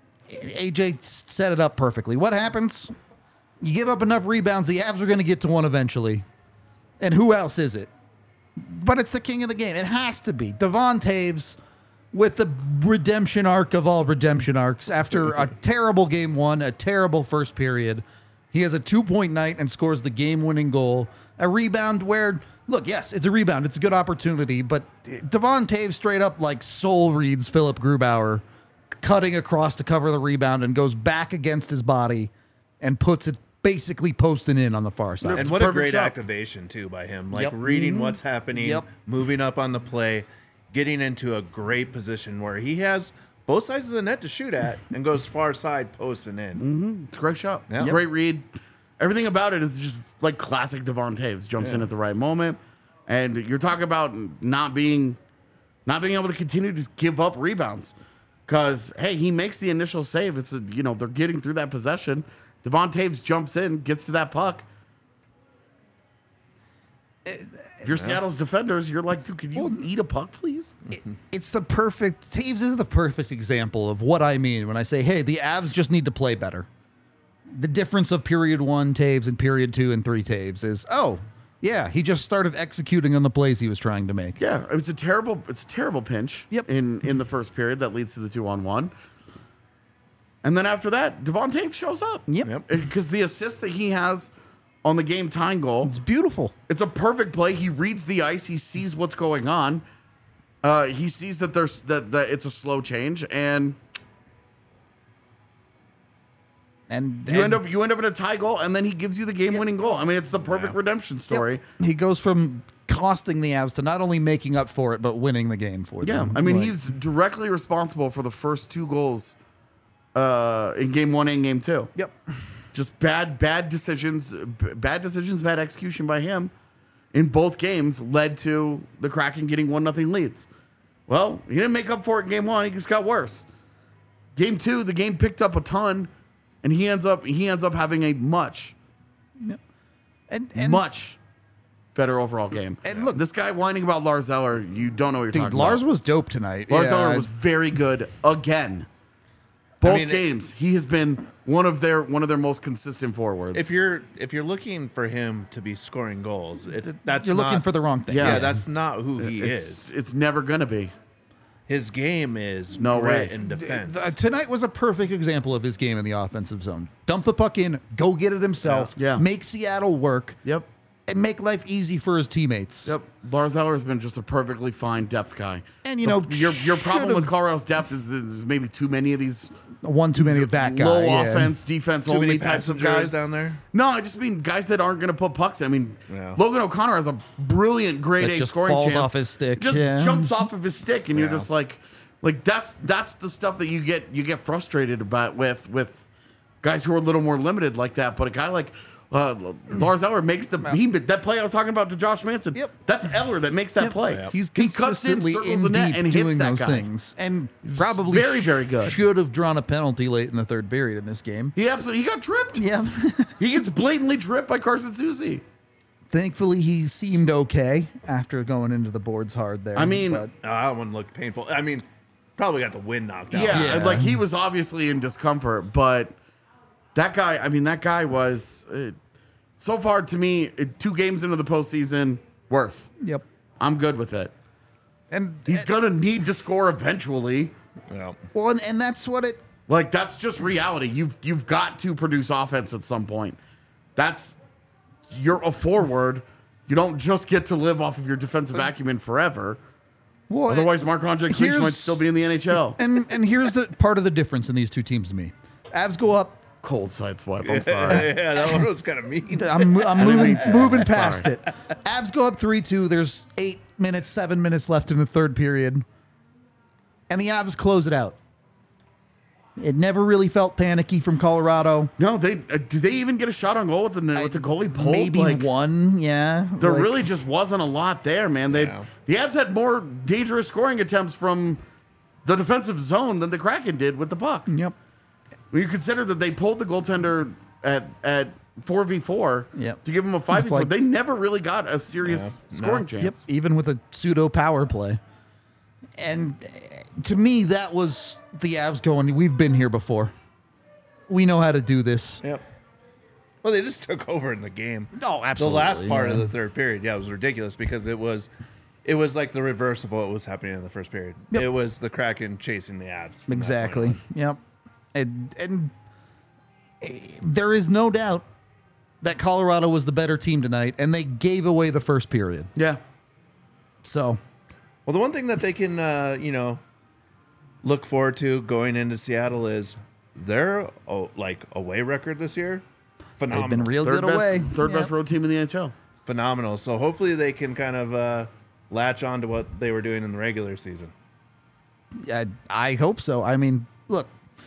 A J set it up perfectly. What happens? You give up enough rebounds, the Avs are going to get to one eventually. And who else is it? But it's the king of the game. It has to be. Devon Toews with the redemption arc of all redemption arcs. After a terrible game one, a terrible first period, he has a two-point night and scores the game-winning goal. A rebound where, look, yes, it's a rebound. It's a good opportunity. But Devon Toews straight up like soul reads Philip Grubauer, cutting across to cover the rebound and goes back against his body and puts it basically posting in on the far side. And It's what a perfect great shot. activation, too, by him. Like, Yep. reading Mhm. what's happening, Yep. moving up on the play, getting into a great position where he has both sides of the net to shoot at and goes far side posting in. It's a great shot. It's Yeah. a great read. Everything about it is just like classic Devon Toews. Jumps in Yeah. at the right moment. And you're talking about not being not being able to continue to just give up rebounds. Because, hey, he makes the initial save. It's a, you know, they're getting through that possession. Devon Toews jumps in, gets to that puck. If you're Seattle's defenders, you're like, dude, could you eat a puck, please? It- it's the perfect, Taves is the perfect example of what I mean when I say, hey, the Avs just need to play better. The difference of period one Taves and period two and three Taves is, oh, yeah, he just started executing on the plays he was trying to make. Yeah, it's a terrible, it's a terrible pinch. Yep. In in the first period that leads to the two on one, and then after that, Devon Toews shows up. Yep. Yep. Because the assist that he has on the game tying goal, It's beautiful. it's a perfect play. He reads the ice. He sees what's going on. Uh, he sees that there's that, that it's a slow change, and And, you and end up you end up in a tie goal, and then he gives you the game winning goal. I mean, it's the perfect redemption story. he goes from costing the Avs to not only making up for it, but winning the game for Yeah, them. I mean, Like, he's directly responsible for the first two goals uh, in game one and game two. Yep. Just bad, bad decisions, b- bad decisions, bad execution by him in both games led to the Kraken getting one nothing leads. Well, he didn't make up for it in game one. He just got worse. Game two, the game picked up a ton, and he ends up he ends up having a much, And, and much better overall game. And look- this guy whining about Lars Eller, you don't know what you're dude, talking Lars about. was dope tonight. Lars Yeah, Eller I- was very good again. Both mean, it- games, he has been one of their one of their most consistent forwards. If you're if you're looking for him to be scoring goals, it's that's You're looking not- for the wrong thing. Yeah. Yeah, that's not who he it's, is. it's never gonna be. His game is No grit way. and defense. Uh, tonight was a perfect example of his game in the offensive zone. Dump the puck in, go get it himself, Yeah. Yeah. make Seattle work, Yep. and make life easy for his teammates. Yep. Lars Eller has been just a perfectly fine depth guy. And, you know, your your problem should've- with Colorado's depth is that there's maybe too many of these One too many of that guy. low yeah. offense, defense Too only many types of passengers guys down there. No, I just mean guys that aren't going to put pucks in. I mean, Yeah. Logan O'Connor has a brilliant grade That A just scoring falls chance. off his stick, Just yeah. jumps off of his stick, and you're Yeah. just like, like that's that's the stuff that you get you get frustrated about with with guys who are a little more limited like that. But a guy like uh, Lars Eller makes the he that play I was talking about to Josh Manson. Yep. That's Eller that makes that Yep. play. Yep. He's he cuts in, consistently circles in the net, deep and hits doing that those guy. things, and probably very, very good. Should have drawn a penalty late in the third period in this game. He absolutely he got tripped. Yeah. He gets blatantly tripped by Carson Soucy. Thankfully, he seemed okay after going into the boards hard there. I mean, but- Oh, that one looked painful. I mean, probably got the wind knocked out. Yeah, Yeah. like he was obviously in discomfort, but that guy, I mean, that guy was uh, so far to me, it- two games into the postseason, Worth. Yep. I'm good with it. And He's gonna need to score eventually. Yeah. well, and, and that's what it. Like that's just reality. You've you've got to produce offense at some point. That's you're a forward. You don't just get to live off of your defensive acumen forever. Well, Otherwise, Marc-Andre Cliche here's- might still be in the N H L. and and here's the part of the difference in these two teams to me. Avs go up. Cold side swipe. I'm sorry. Yeah, that one was kind of mean. I'm, I'm moving, mean to. moving past Sorry. it. Avs go up three two. There's eight minutes, seven minutes left in the third period. And the Avs close it out. It never really felt panicky from Colorado. No, they uh, did they even get a shot on goal with the with the goalie pulled? Maybe Like, one, yeah. There Like, really just wasn't a lot there, man. They Yeah. the Avs had more dangerous scoring attempts from the defensive zone than the Kraken did with the puck. Yep. When you consider that they pulled the goaltender at at four v four Yep. to give him a five v four, like- they never really got a serious Yeah. scoring No. Yep. chance. Even with a pseudo power play. And uh, to me, that was the Avs going, we've been here before. We know how to do this. Yep. Well, they just took over in the game. Oh, The last part yeah. of the third period, yeah, it was ridiculous because it was, it was like the reverse of what was happening in the first period. Yep. It was the Kraken chasing the Avs. from that Exactly. point Yep. And and eh, there is no doubt that Colorado was the better team tonight, and they gave away the first period. Yeah. So on. Well, the one thing that they can, uh, you know, look forward to going into Seattle is their oh, like away record this year. Phenomenal. they've been real Third good best, away. third Yep. best road team in the N H L. Phenomenal. So hopefully they can kind of uh, latch on to what they were doing in the regular season. I, I hope so. I mean, look,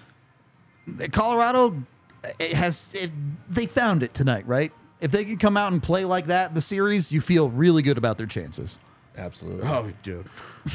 Colorado it has it, they found it tonight, right? If they could come out and play like that in the series, you feel really good about their chances. Absolutely. Oh, dude.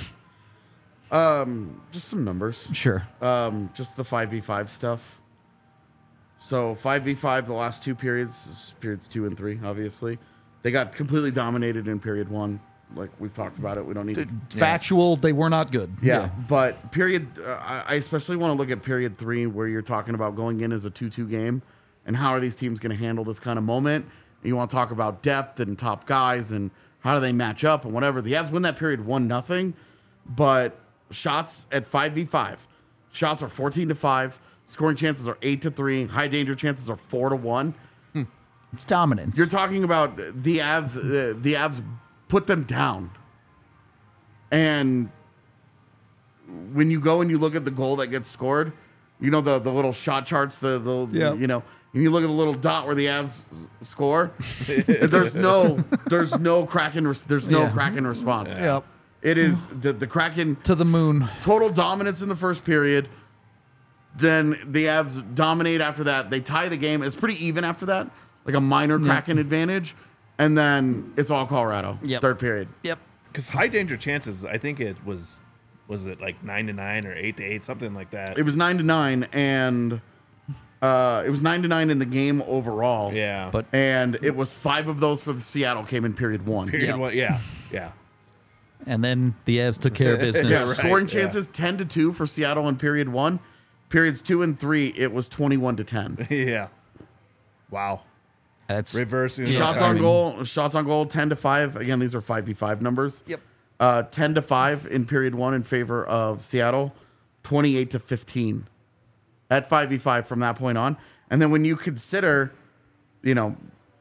um, just some numbers. Sure. Um, just the five v five stuff. So five v five, the last two periods, periods two and three, obviously, they got completely dominated in period one. Like we've talked about it, we don't need to. Factual, they were not good. Yeah, but period. Uh, I I especially want to look at period three, where you're talking about going in as a two two game, and how are these teams going to handle this kind of moment? And you want to talk about depth and top guys and how do they match up and whatever. The Avs win that period one nothing, but shots at five v five, shots are fourteen to five. Scoring chances are eight to three. High danger chances are four to one. It's dominance. You're talking about the Avs. Uh, the Avs put them down, and when you go and you look at the goal that gets scored, you know the the little shot charts. The the Yeah. you know, and you look at the little dot where the Avs s- score. there's no there's no Kraken. Res- there's no Yeah. Kraken response. Yep. It is the the Kraken To the moon. total dominance in the first period. Then the Avs dominate after that. They tie the game. It's pretty even after that, like a minor Kraken advantage. And then it's all Colorado. Yep. Third period. Yep. Because high danger chances, I think it was, was it like nine to nine or eight to eight, something like that. It was nine to nine, and uh, it was nine to nine in the game overall. Yeah. But And it was five of those for the Seattle came in period one. period Yep. one, yeah, yeah. and then the Avs took care of business. Yeah, right, scoring yeah. chances ten to two for Seattle in period one. Periods two and three, it was twenty-one to ten. Yeah. Wow. That's Reversing. Shots I on mean- goal, shots on goal, ten to five. Again, these are five v five numbers. Yep. Uh, ten to five in period one in favor of Seattle, twenty-eight to fifteen at five v five from that point on. And then when you consider, you know,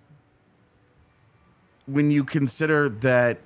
when you consider that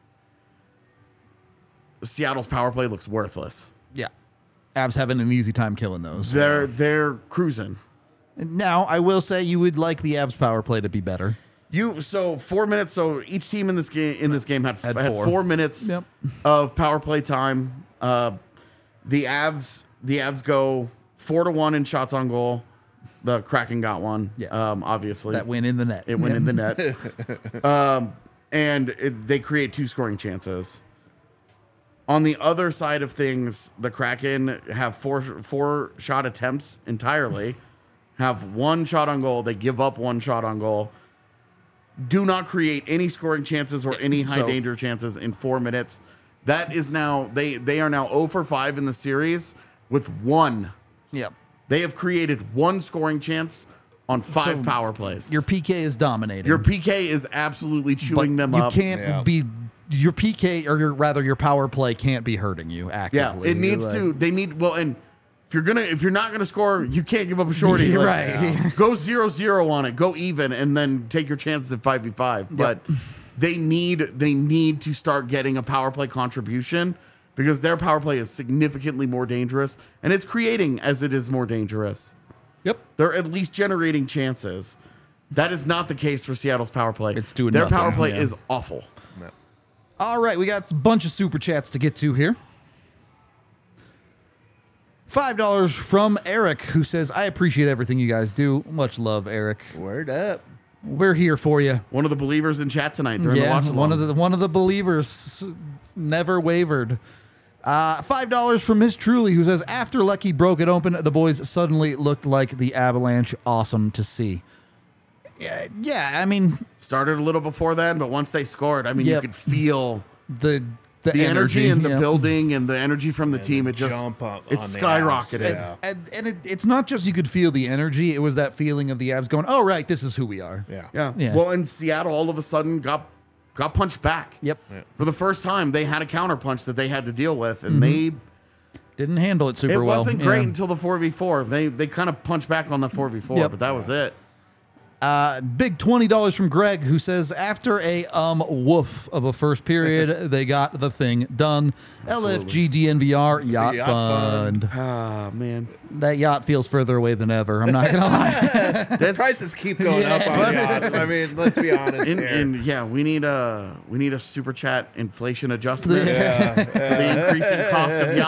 Seattle's power play looks worthless, yeah. Avs having an easy time killing those. they're they're cruising. Now, I will say you would like the Avs power play to be better. You so four minutes. So each team in this game in this game had Had had, four. four. minutes Yep. of power play time. Uh, the Avs the Avs go four to one in shots on goal. The Kraken got one. Yeah. Um, obviously That went in the net. it went Yeah. in the net. um, and it, they create two scoring chances. On the other side of things, the Kraken have four four shot attempts entirely. Have one shot on goal. They give up one shot on goal. Do not create any scoring chances or any high So- danger chances in four minutes. That is now they they are now zero for five in the series with one. Yep. They have created one scoring chance on five So power plays. Your P K is dominating. Your P K is absolutely but chewing them you up. can't Yeah. be your P K or your rather your power play can't be hurting you Yeah, actively. it needs Like- to. They need well, and if you're gonna, if you're not gonna score, you can't give up a shorty. You're Like, right. yeah. Go zero zero on it. Go even, and then take your chances at five v five. But they need they need to start getting a power play contribution because their power play is significantly more dangerous, and it's creating as it is more dangerous. Yep. They're at least generating chances. That is not the case for Seattle's power play. It's doing their nothing, power play yeah. is awful. All right, we got a bunch of super chats to get to here. five dollars from Eric, who says, I appreciate everything you guys do. Much love, Eric. Word up. We're here for you. One of the believers in chat tonight during the Yeah, watch one of along. the one of the believers never wavered. Uh, five dollars from Miss Truly, who says, after Lecky broke it open, the boys suddenly looked like the Avalanche. Awesome to see. Yeah, yeah I mean, Started a little before then, but once they scored, I mean, Yep. you could feel the the, the energy, in the yeah. building and the energy from the team. the It just jump up it on the skyrocketed. abs, yeah. And, and it, it's not just you could feel the energy, it was that feeling of the Avs going, oh, right, this is who we are. Yeah. Yeah. Yeah. Well, and Seattle all of a sudden got got punched back. Yep. For the first time, they had a counterpunch that they had to deal with, and they Didn't handle it super it well. wasn't great Yeah. until the four v four. They they kind of punched back on the four v four, Yep. but that was it. Uh, big twenty dollars from Greg, who says, after a um woof of a first period, they got the thing done. L F G D N V R Yacht, Yacht Fund. Fund. Ah, man. That yacht feels further away than ever. I'm not going to lie. That's Prices keep going up on yachts. I mean, let's be honest in, here. in, yeah, we need a we need a super chat inflation adjustment yeah. for the increasing cost of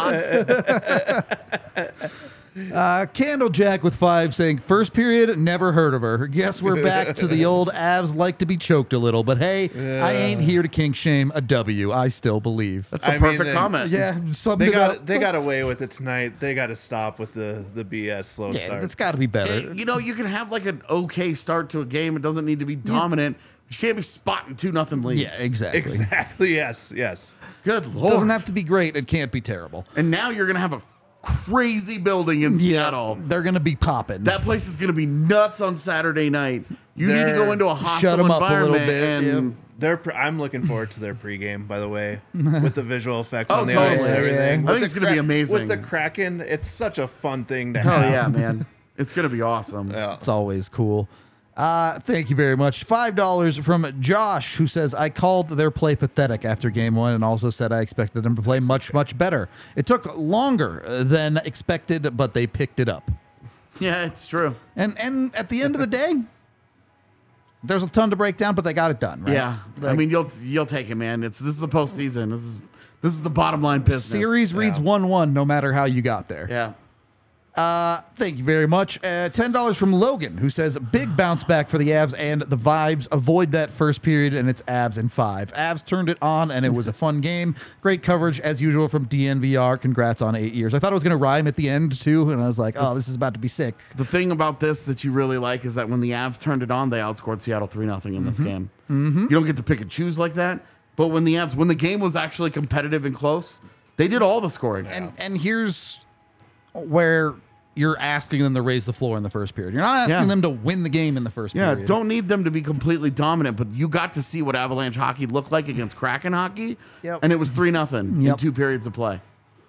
yachts. Uh, Candlejack with five saying, first period, never heard of her. Guess we're back to the old Avs like to be choked a little, but hey, I ain't here to kink shame a W. I still believe. That's a I mean, perfect they- comment. Yeah, something They got about- they got away with it tonight. They got to stop with the the B S slow Yeah, start. that's got to be better. It- you know, you can have like an okay start to a game. It doesn't need to be dominant. You can't be spotting two nothing leads. Yeah, exactly. Exactly. Yes. Yes. Good lord. Doesn't have to be great. It can't be terrible. and now you're gonna have a crazy building in Seattle. They're going to be popping. That place is gonna be nuts on Saturday night. You need to They're- go into a Shut hostile 'em up a little environment bit, and They're. Pre- I'm looking forward to their pregame. By the way, with the visual effects Oh, on the totally. ice and Yeah, everything. yeah. I With think the it's gonna be amazing. With the Kraken, it's such a fun thing to hell have. yeah, man. It's gonna be awesome. Yeah. It's always cool. Uh, thank you very much. five dollars from Josh, who says, I called their play pathetic after game one and also said I expected them to play much, much better. It took longer than expected, but they picked it up. Yeah, it's true. And and at the end of the day, there's a ton to break down, but they got it done, right? Yeah, I Like, mean you'll you'll take it, man. It's this is the postseason. This is this is the bottom line business. series reads Yeah. one one no matter how you got there. Yeah. Uh, thank you very much. Uh, ten dollars from Logan, who says, big bounce back for the Avs and the vibes. Avoid that first period, and it's Avs in five. Avs turned it on, and it was a fun game. Great coverage, as usual, from D N V R. Congrats on eight years. I thought it was going to rhyme at the end, too, and I was like, oh, this is about to be sick. The thing about this that you really like is that when the Avs turned it on, they outscored Seattle three nothing in this game. Mm-hmm. You don't get to pick and choose like that. But when the Avs, when the game was actually competitive and close, they did all the scoring. And, and here's where you're asking them to raise the floor in the first period. You're not asking Yeah. them to win the game in the first yeah, period. don't need them to be completely dominant, but you got to see what Avalanche hockey looked like against Kraken hockey, Yep. and it was three nothing in Yep. two periods of play,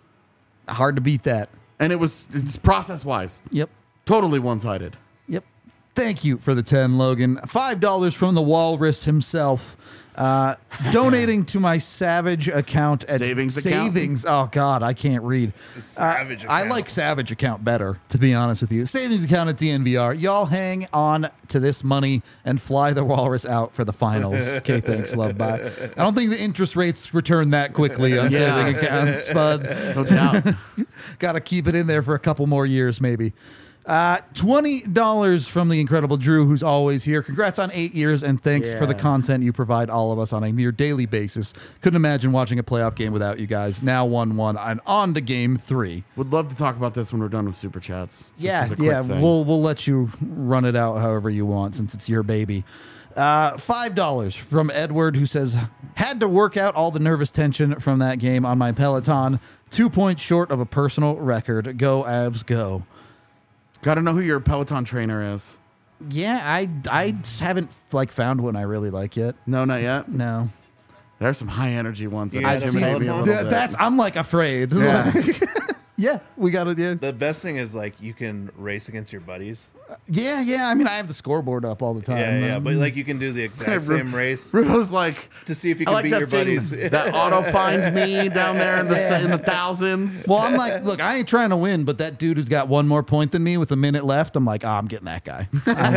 Hard to beat that. and it was it's process wise Yep. totally one sided. Yep. Thank you for the ten, Logan. five dollars from the Walrus himself. Uh, donating to my Savage account at Savings account? Savings. Oh, God, I can't read. Savage Uh, I account. like Savage account better, to be honest with you. Savings account at D N V R. Y'all hang on to this money and fly the Walrus out for the finals. Okay, thanks, love, bye. I don't think the interest rates return that quickly on Yeah. saving accounts, but No doubt. got to keep it in there for a couple more years, maybe. Uh, twenty dollars from the incredible Drew, who's always here. Congrats on eight years, and thanks for the Yeah. content you provide all of us on a near daily basis. Couldn't imagine watching a playoff game without you guys. Now one one, and on to game three. Would love to talk about this when we're done with super chats. Just Yeah, as a quick yeah, thing. we'll we'll let you run it out however you want since it's your baby. Uh, Five dollars from Edward, who says, had to work out all the nervous tension from that game on my Peloton. Two points short of a personal record. Go Avs, go. Got to know who your Peloton trainer is. Yeah, I I haven't like found one I really like yet. No, not yet. No, There's some high energy ones that Yeah, intimidate me a Peloton? little Th- bit. that's I'm like afraid. Yeah. Like, yeah, we got to. Yeah. The best thing is like you can race against your buddies. yeah, yeah. I mean, I have the scoreboard up all the time. Yeah, yeah, Um, but like you can do the exact same race Rudo's like, to see if you I can like beat that your thing, buddies. that auto find me down there in the in the thousands. well, I'm like, look, I ain't trying to win, but that dude who's got one more point than me with a minute left, I'm like, oh, I'm getting that guy.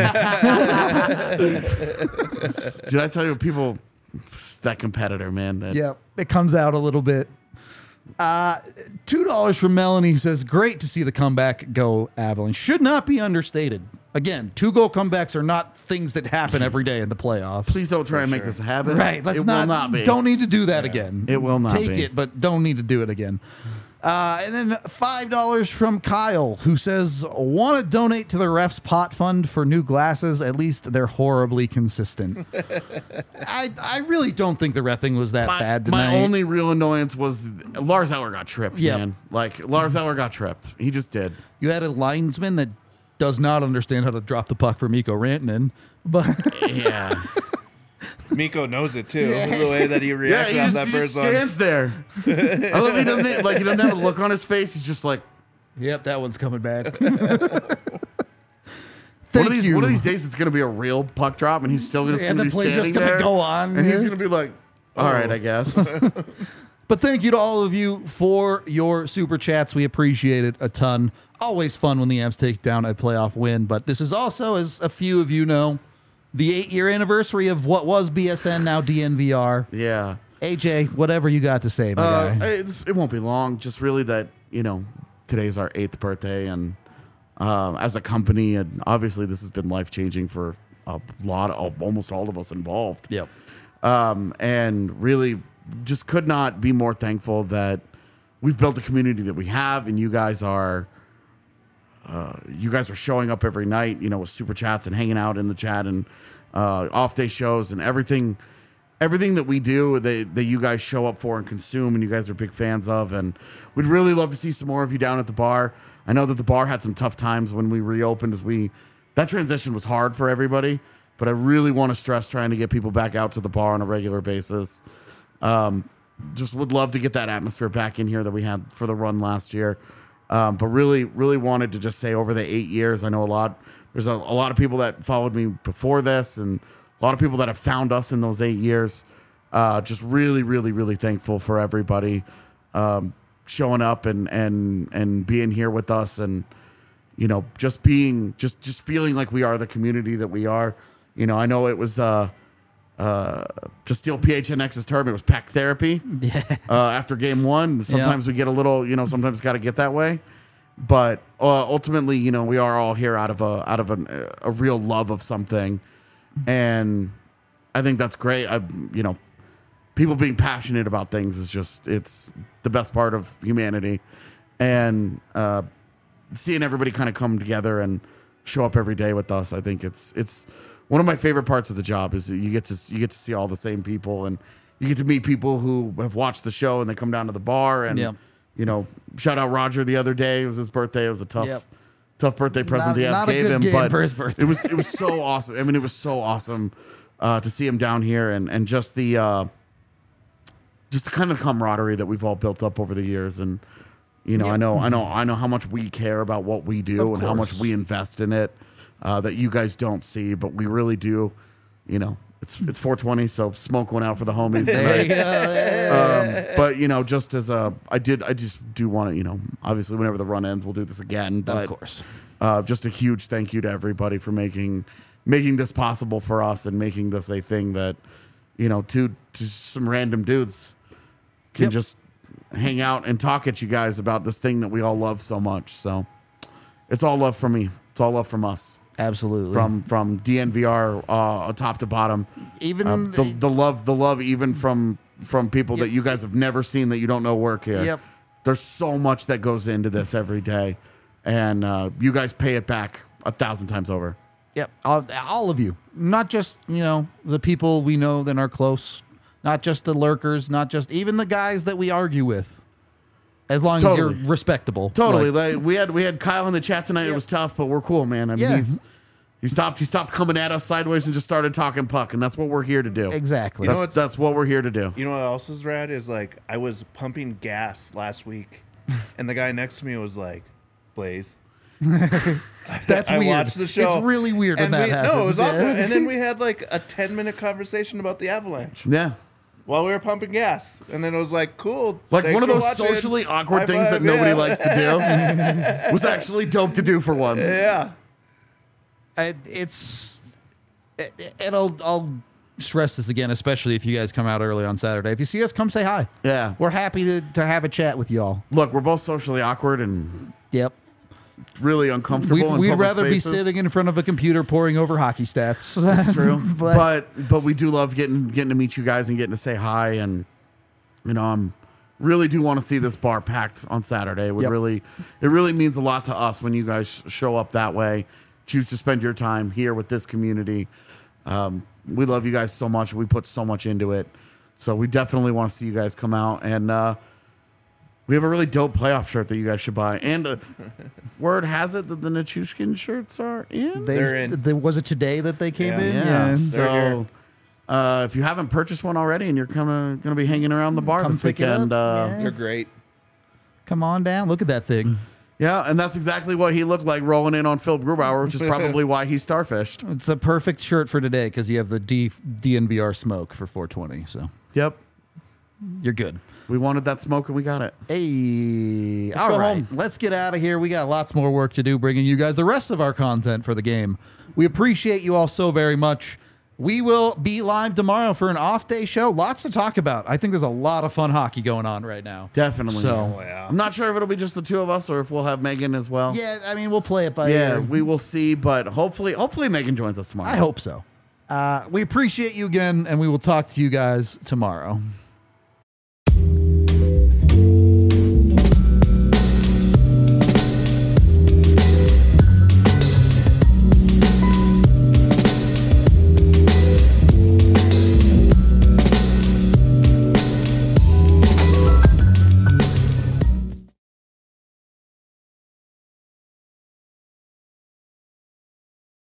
Did I tell you people? That competitor, man. That, Yeah, it comes out a little bit. Uh, Two dollars from Melanie, who says, "Great to see the comeback go, Avalanche. Should not be understated. Again, two goal comebacks are not things that happen every day in the playoffs. Please don't try and make sure. this a habit. Right? Let's it not. will not be. Don't need to do that again. It will not Take be. it, but don't need to do it again." Uh, and then five dollars from Kyle, who says, "Want to donate to the refs pot fund for new glasses? At least they're horribly consistent." I I really don't think the reffing was that My, bad tonight. my only real annoyance was Lars Eller got tripped, Yep. man. Like Lars Eller got tripped. He just did. You had a linesman that does not understand how to drop the puck for Mikko Rantanen, but Yeah. Miko knows it too. The way that he Yeah, reacted he on just, that he first just one. stands there. I love he doesn't like he doesn't have a look on his face. He's just like, yep, that one's coming back. one Thank of these you. one of these days it's gonna be a real puck drop, and he's still gonna, And gonna the be play's standing just gonna there, go on, and he's yeah. gonna be like, all right, I guess. But thank you to all of you for your super chats. We appreciate it a ton. Always fun when the Avs take down a playoff win. But this is also, as a few of you know, the eight-year anniversary of what was B S N, now D N V R. Yeah. A J, whatever you got to say, my Uh, guy. it's, it won't be long. Just really that, you know, today's our eighth birthday, and um, as a company, and obviously this has been life changing for a lot of almost all of us involved. Yep. Um, and really just could not be more thankful that we've built the community that we have, and you guys are. Uh, you guys are showing up every night, you know, with super chats and hanging out in the chat and uh, off day shows and everything, everything that we do that, that you guys show up for and consume, and you guys are big fans of. And we'd really love to see some more of you down at the bar. I know that the bar had some tough times when we reopened, as we that transition was hard for everybody. But I really want to stress trying to get people back out to the bar on a regular basis. Um, just would love to get that atmosphere back in here that we had for the run last year. Um, but really, really wanted to just say over the eight years, I know a lot, there's a, a lot of people that followed me before this, and a lot of people that have found us in those eight years. Uh, just really, really, really thankful for everybody um, showing up and, and, and being here with us, and, you know, just being, just, just feeling like we are the community that we are. You know, I know it was, uh, uh, to steal P H N X's term, it was pack therapy. Yeah. Uh, after game one, sometimes we get a little, you know, sometimes got to get that way. But uh, ultimately, you know, we are all here out of a out of an, a real love of something, and I think that's great. I, you know, people being passionate about things is just it's the best part of humanity, and uh, seeing everybody kind of come together and show up every day with us, I think it's it's. One of my favorite parts of the job is that you get to you get to see all the same people, and you get to meet people who have watched the show and they come down to the bar, and Yep. you know, shout out Roger the other day. It was his birthday. It was a tough, Yep. tough birthday present Not- the Avs not a gave good him, game but for his birthday. it was it was so awesome. I mean, it was so awesome uh, to see him down here, and and just the uh, just the kind of camaraderie that we've all built up over the years, and you know, Yep. I know, I know, I know how much we care about what we do Of and how much course. we invest in it. Uh, that you guys don't see, but we really do. You know, it's it's four twenty, so smoke went out for the homies There you tonight. go. Um, but you know, just as a, I did, I just do want to, you know, obviously whenever the run ends, we'll do this again. But, Of course. uh, just a huge thank you to everybody for making making this possible for us and making this a thing that, you know, two just some random dudes can Yep. just hang out and talk at you guys about this thing that we all love so much. So it's all love from me. It's all love from us. Absolutely. From from D N V R uh, top to bottom. Even Um, the, the love, the love, even from from people that you guys have never seen that you don't know work here. Yep. There's so much that goes into this every day, and uh, you guys pay it back a thousand times over. Yep, all, all of you, not just you know the people we know that are close, not just the lurkers, not just even the guys that we argue with. As long Totally. as you're respectable, Totally. Like, Like, we had we had Kyle in the chat tonight. It Yep. was tough, but we're cool, man. I mean, Yeah. he's He stopped. He stopped coming at us sideways and just started talking puck, and that's what we're here to do. Exactly. You know That's, what's- that's what we're here to do. You know what else is rad is like I was pumping gas last week, and the guy next to me was like, "Blaze." That's I weird. watched the show. It's really weird when and that we, happens. No, it was Yeah. awesome. And then we had like a ten minute conversation about the Avalanche Yeah. while we were pumping gas, and then it was like, "Cool." Like thanks one of for those watching. socially awkward High things that five, nobody yeah. likes to do was actually dope to do for once. Yeah. I- it's it, and I'll I'll stress this again, especially if you guys come out early on Saturday. If you see us, come say hi. Yeah. We're happy to, to have a chat with y'all. Look, we're both socially awkward and Yep. really uncomfortable. We'd, in we'd public rather spaces. be sitting in front of a computer poring over hockey stats. That's true. but, but but we do love getting getting to meet you guys and getting to say hi, and you know I'm really do want to see this bar packed on Saturday. It would Yep. really it really means a lot to us when you guys show up that way. Choose to spend your time here with this community. Um, we love you guys so much. We put so much into it. So we definitely want to see you guys come out. And uh, we have a really dope playoff shirt that you guys should buy. And uh, word has it that the Nichushkin shirts are in. they, They're in. There was it today that they came Yeah. in? Yeah. They're So here. uh, if you haven't purchased one already and you're kind of going to be hanging around the bar Come this pick it up. weekend, uh, Yeah. They're great. Come on down. Look at that thing. yeah, and that's exactly what he looked like rolling in on Phil Grubauer, which is probably why he starfished. It's the perfect shirt for today because you have the D, DNVR smoke for four twenty. So Yep. you're good. We wanted that smoke and we got it. Hey, Let's all go right, home. let's get out of here. We got lots more work to do bringing you guys the rest of our content for the game. We appreciate you all so very much. We will be live tomorrow for an off day show. Lots to talk about. I think there's a lot of fun hockey going on right now. Definitely. So, Oh, yeah. I'm not sure if it'll be just the two of us or if we'll have Megan as well. yeah, I mean, we'll play it by Yeah, ear. we will see, but hopefully hopefully Megan joins us tomorrow. I hope so. Uh, we appreciate you again, and we will talk to you guys tomorrow.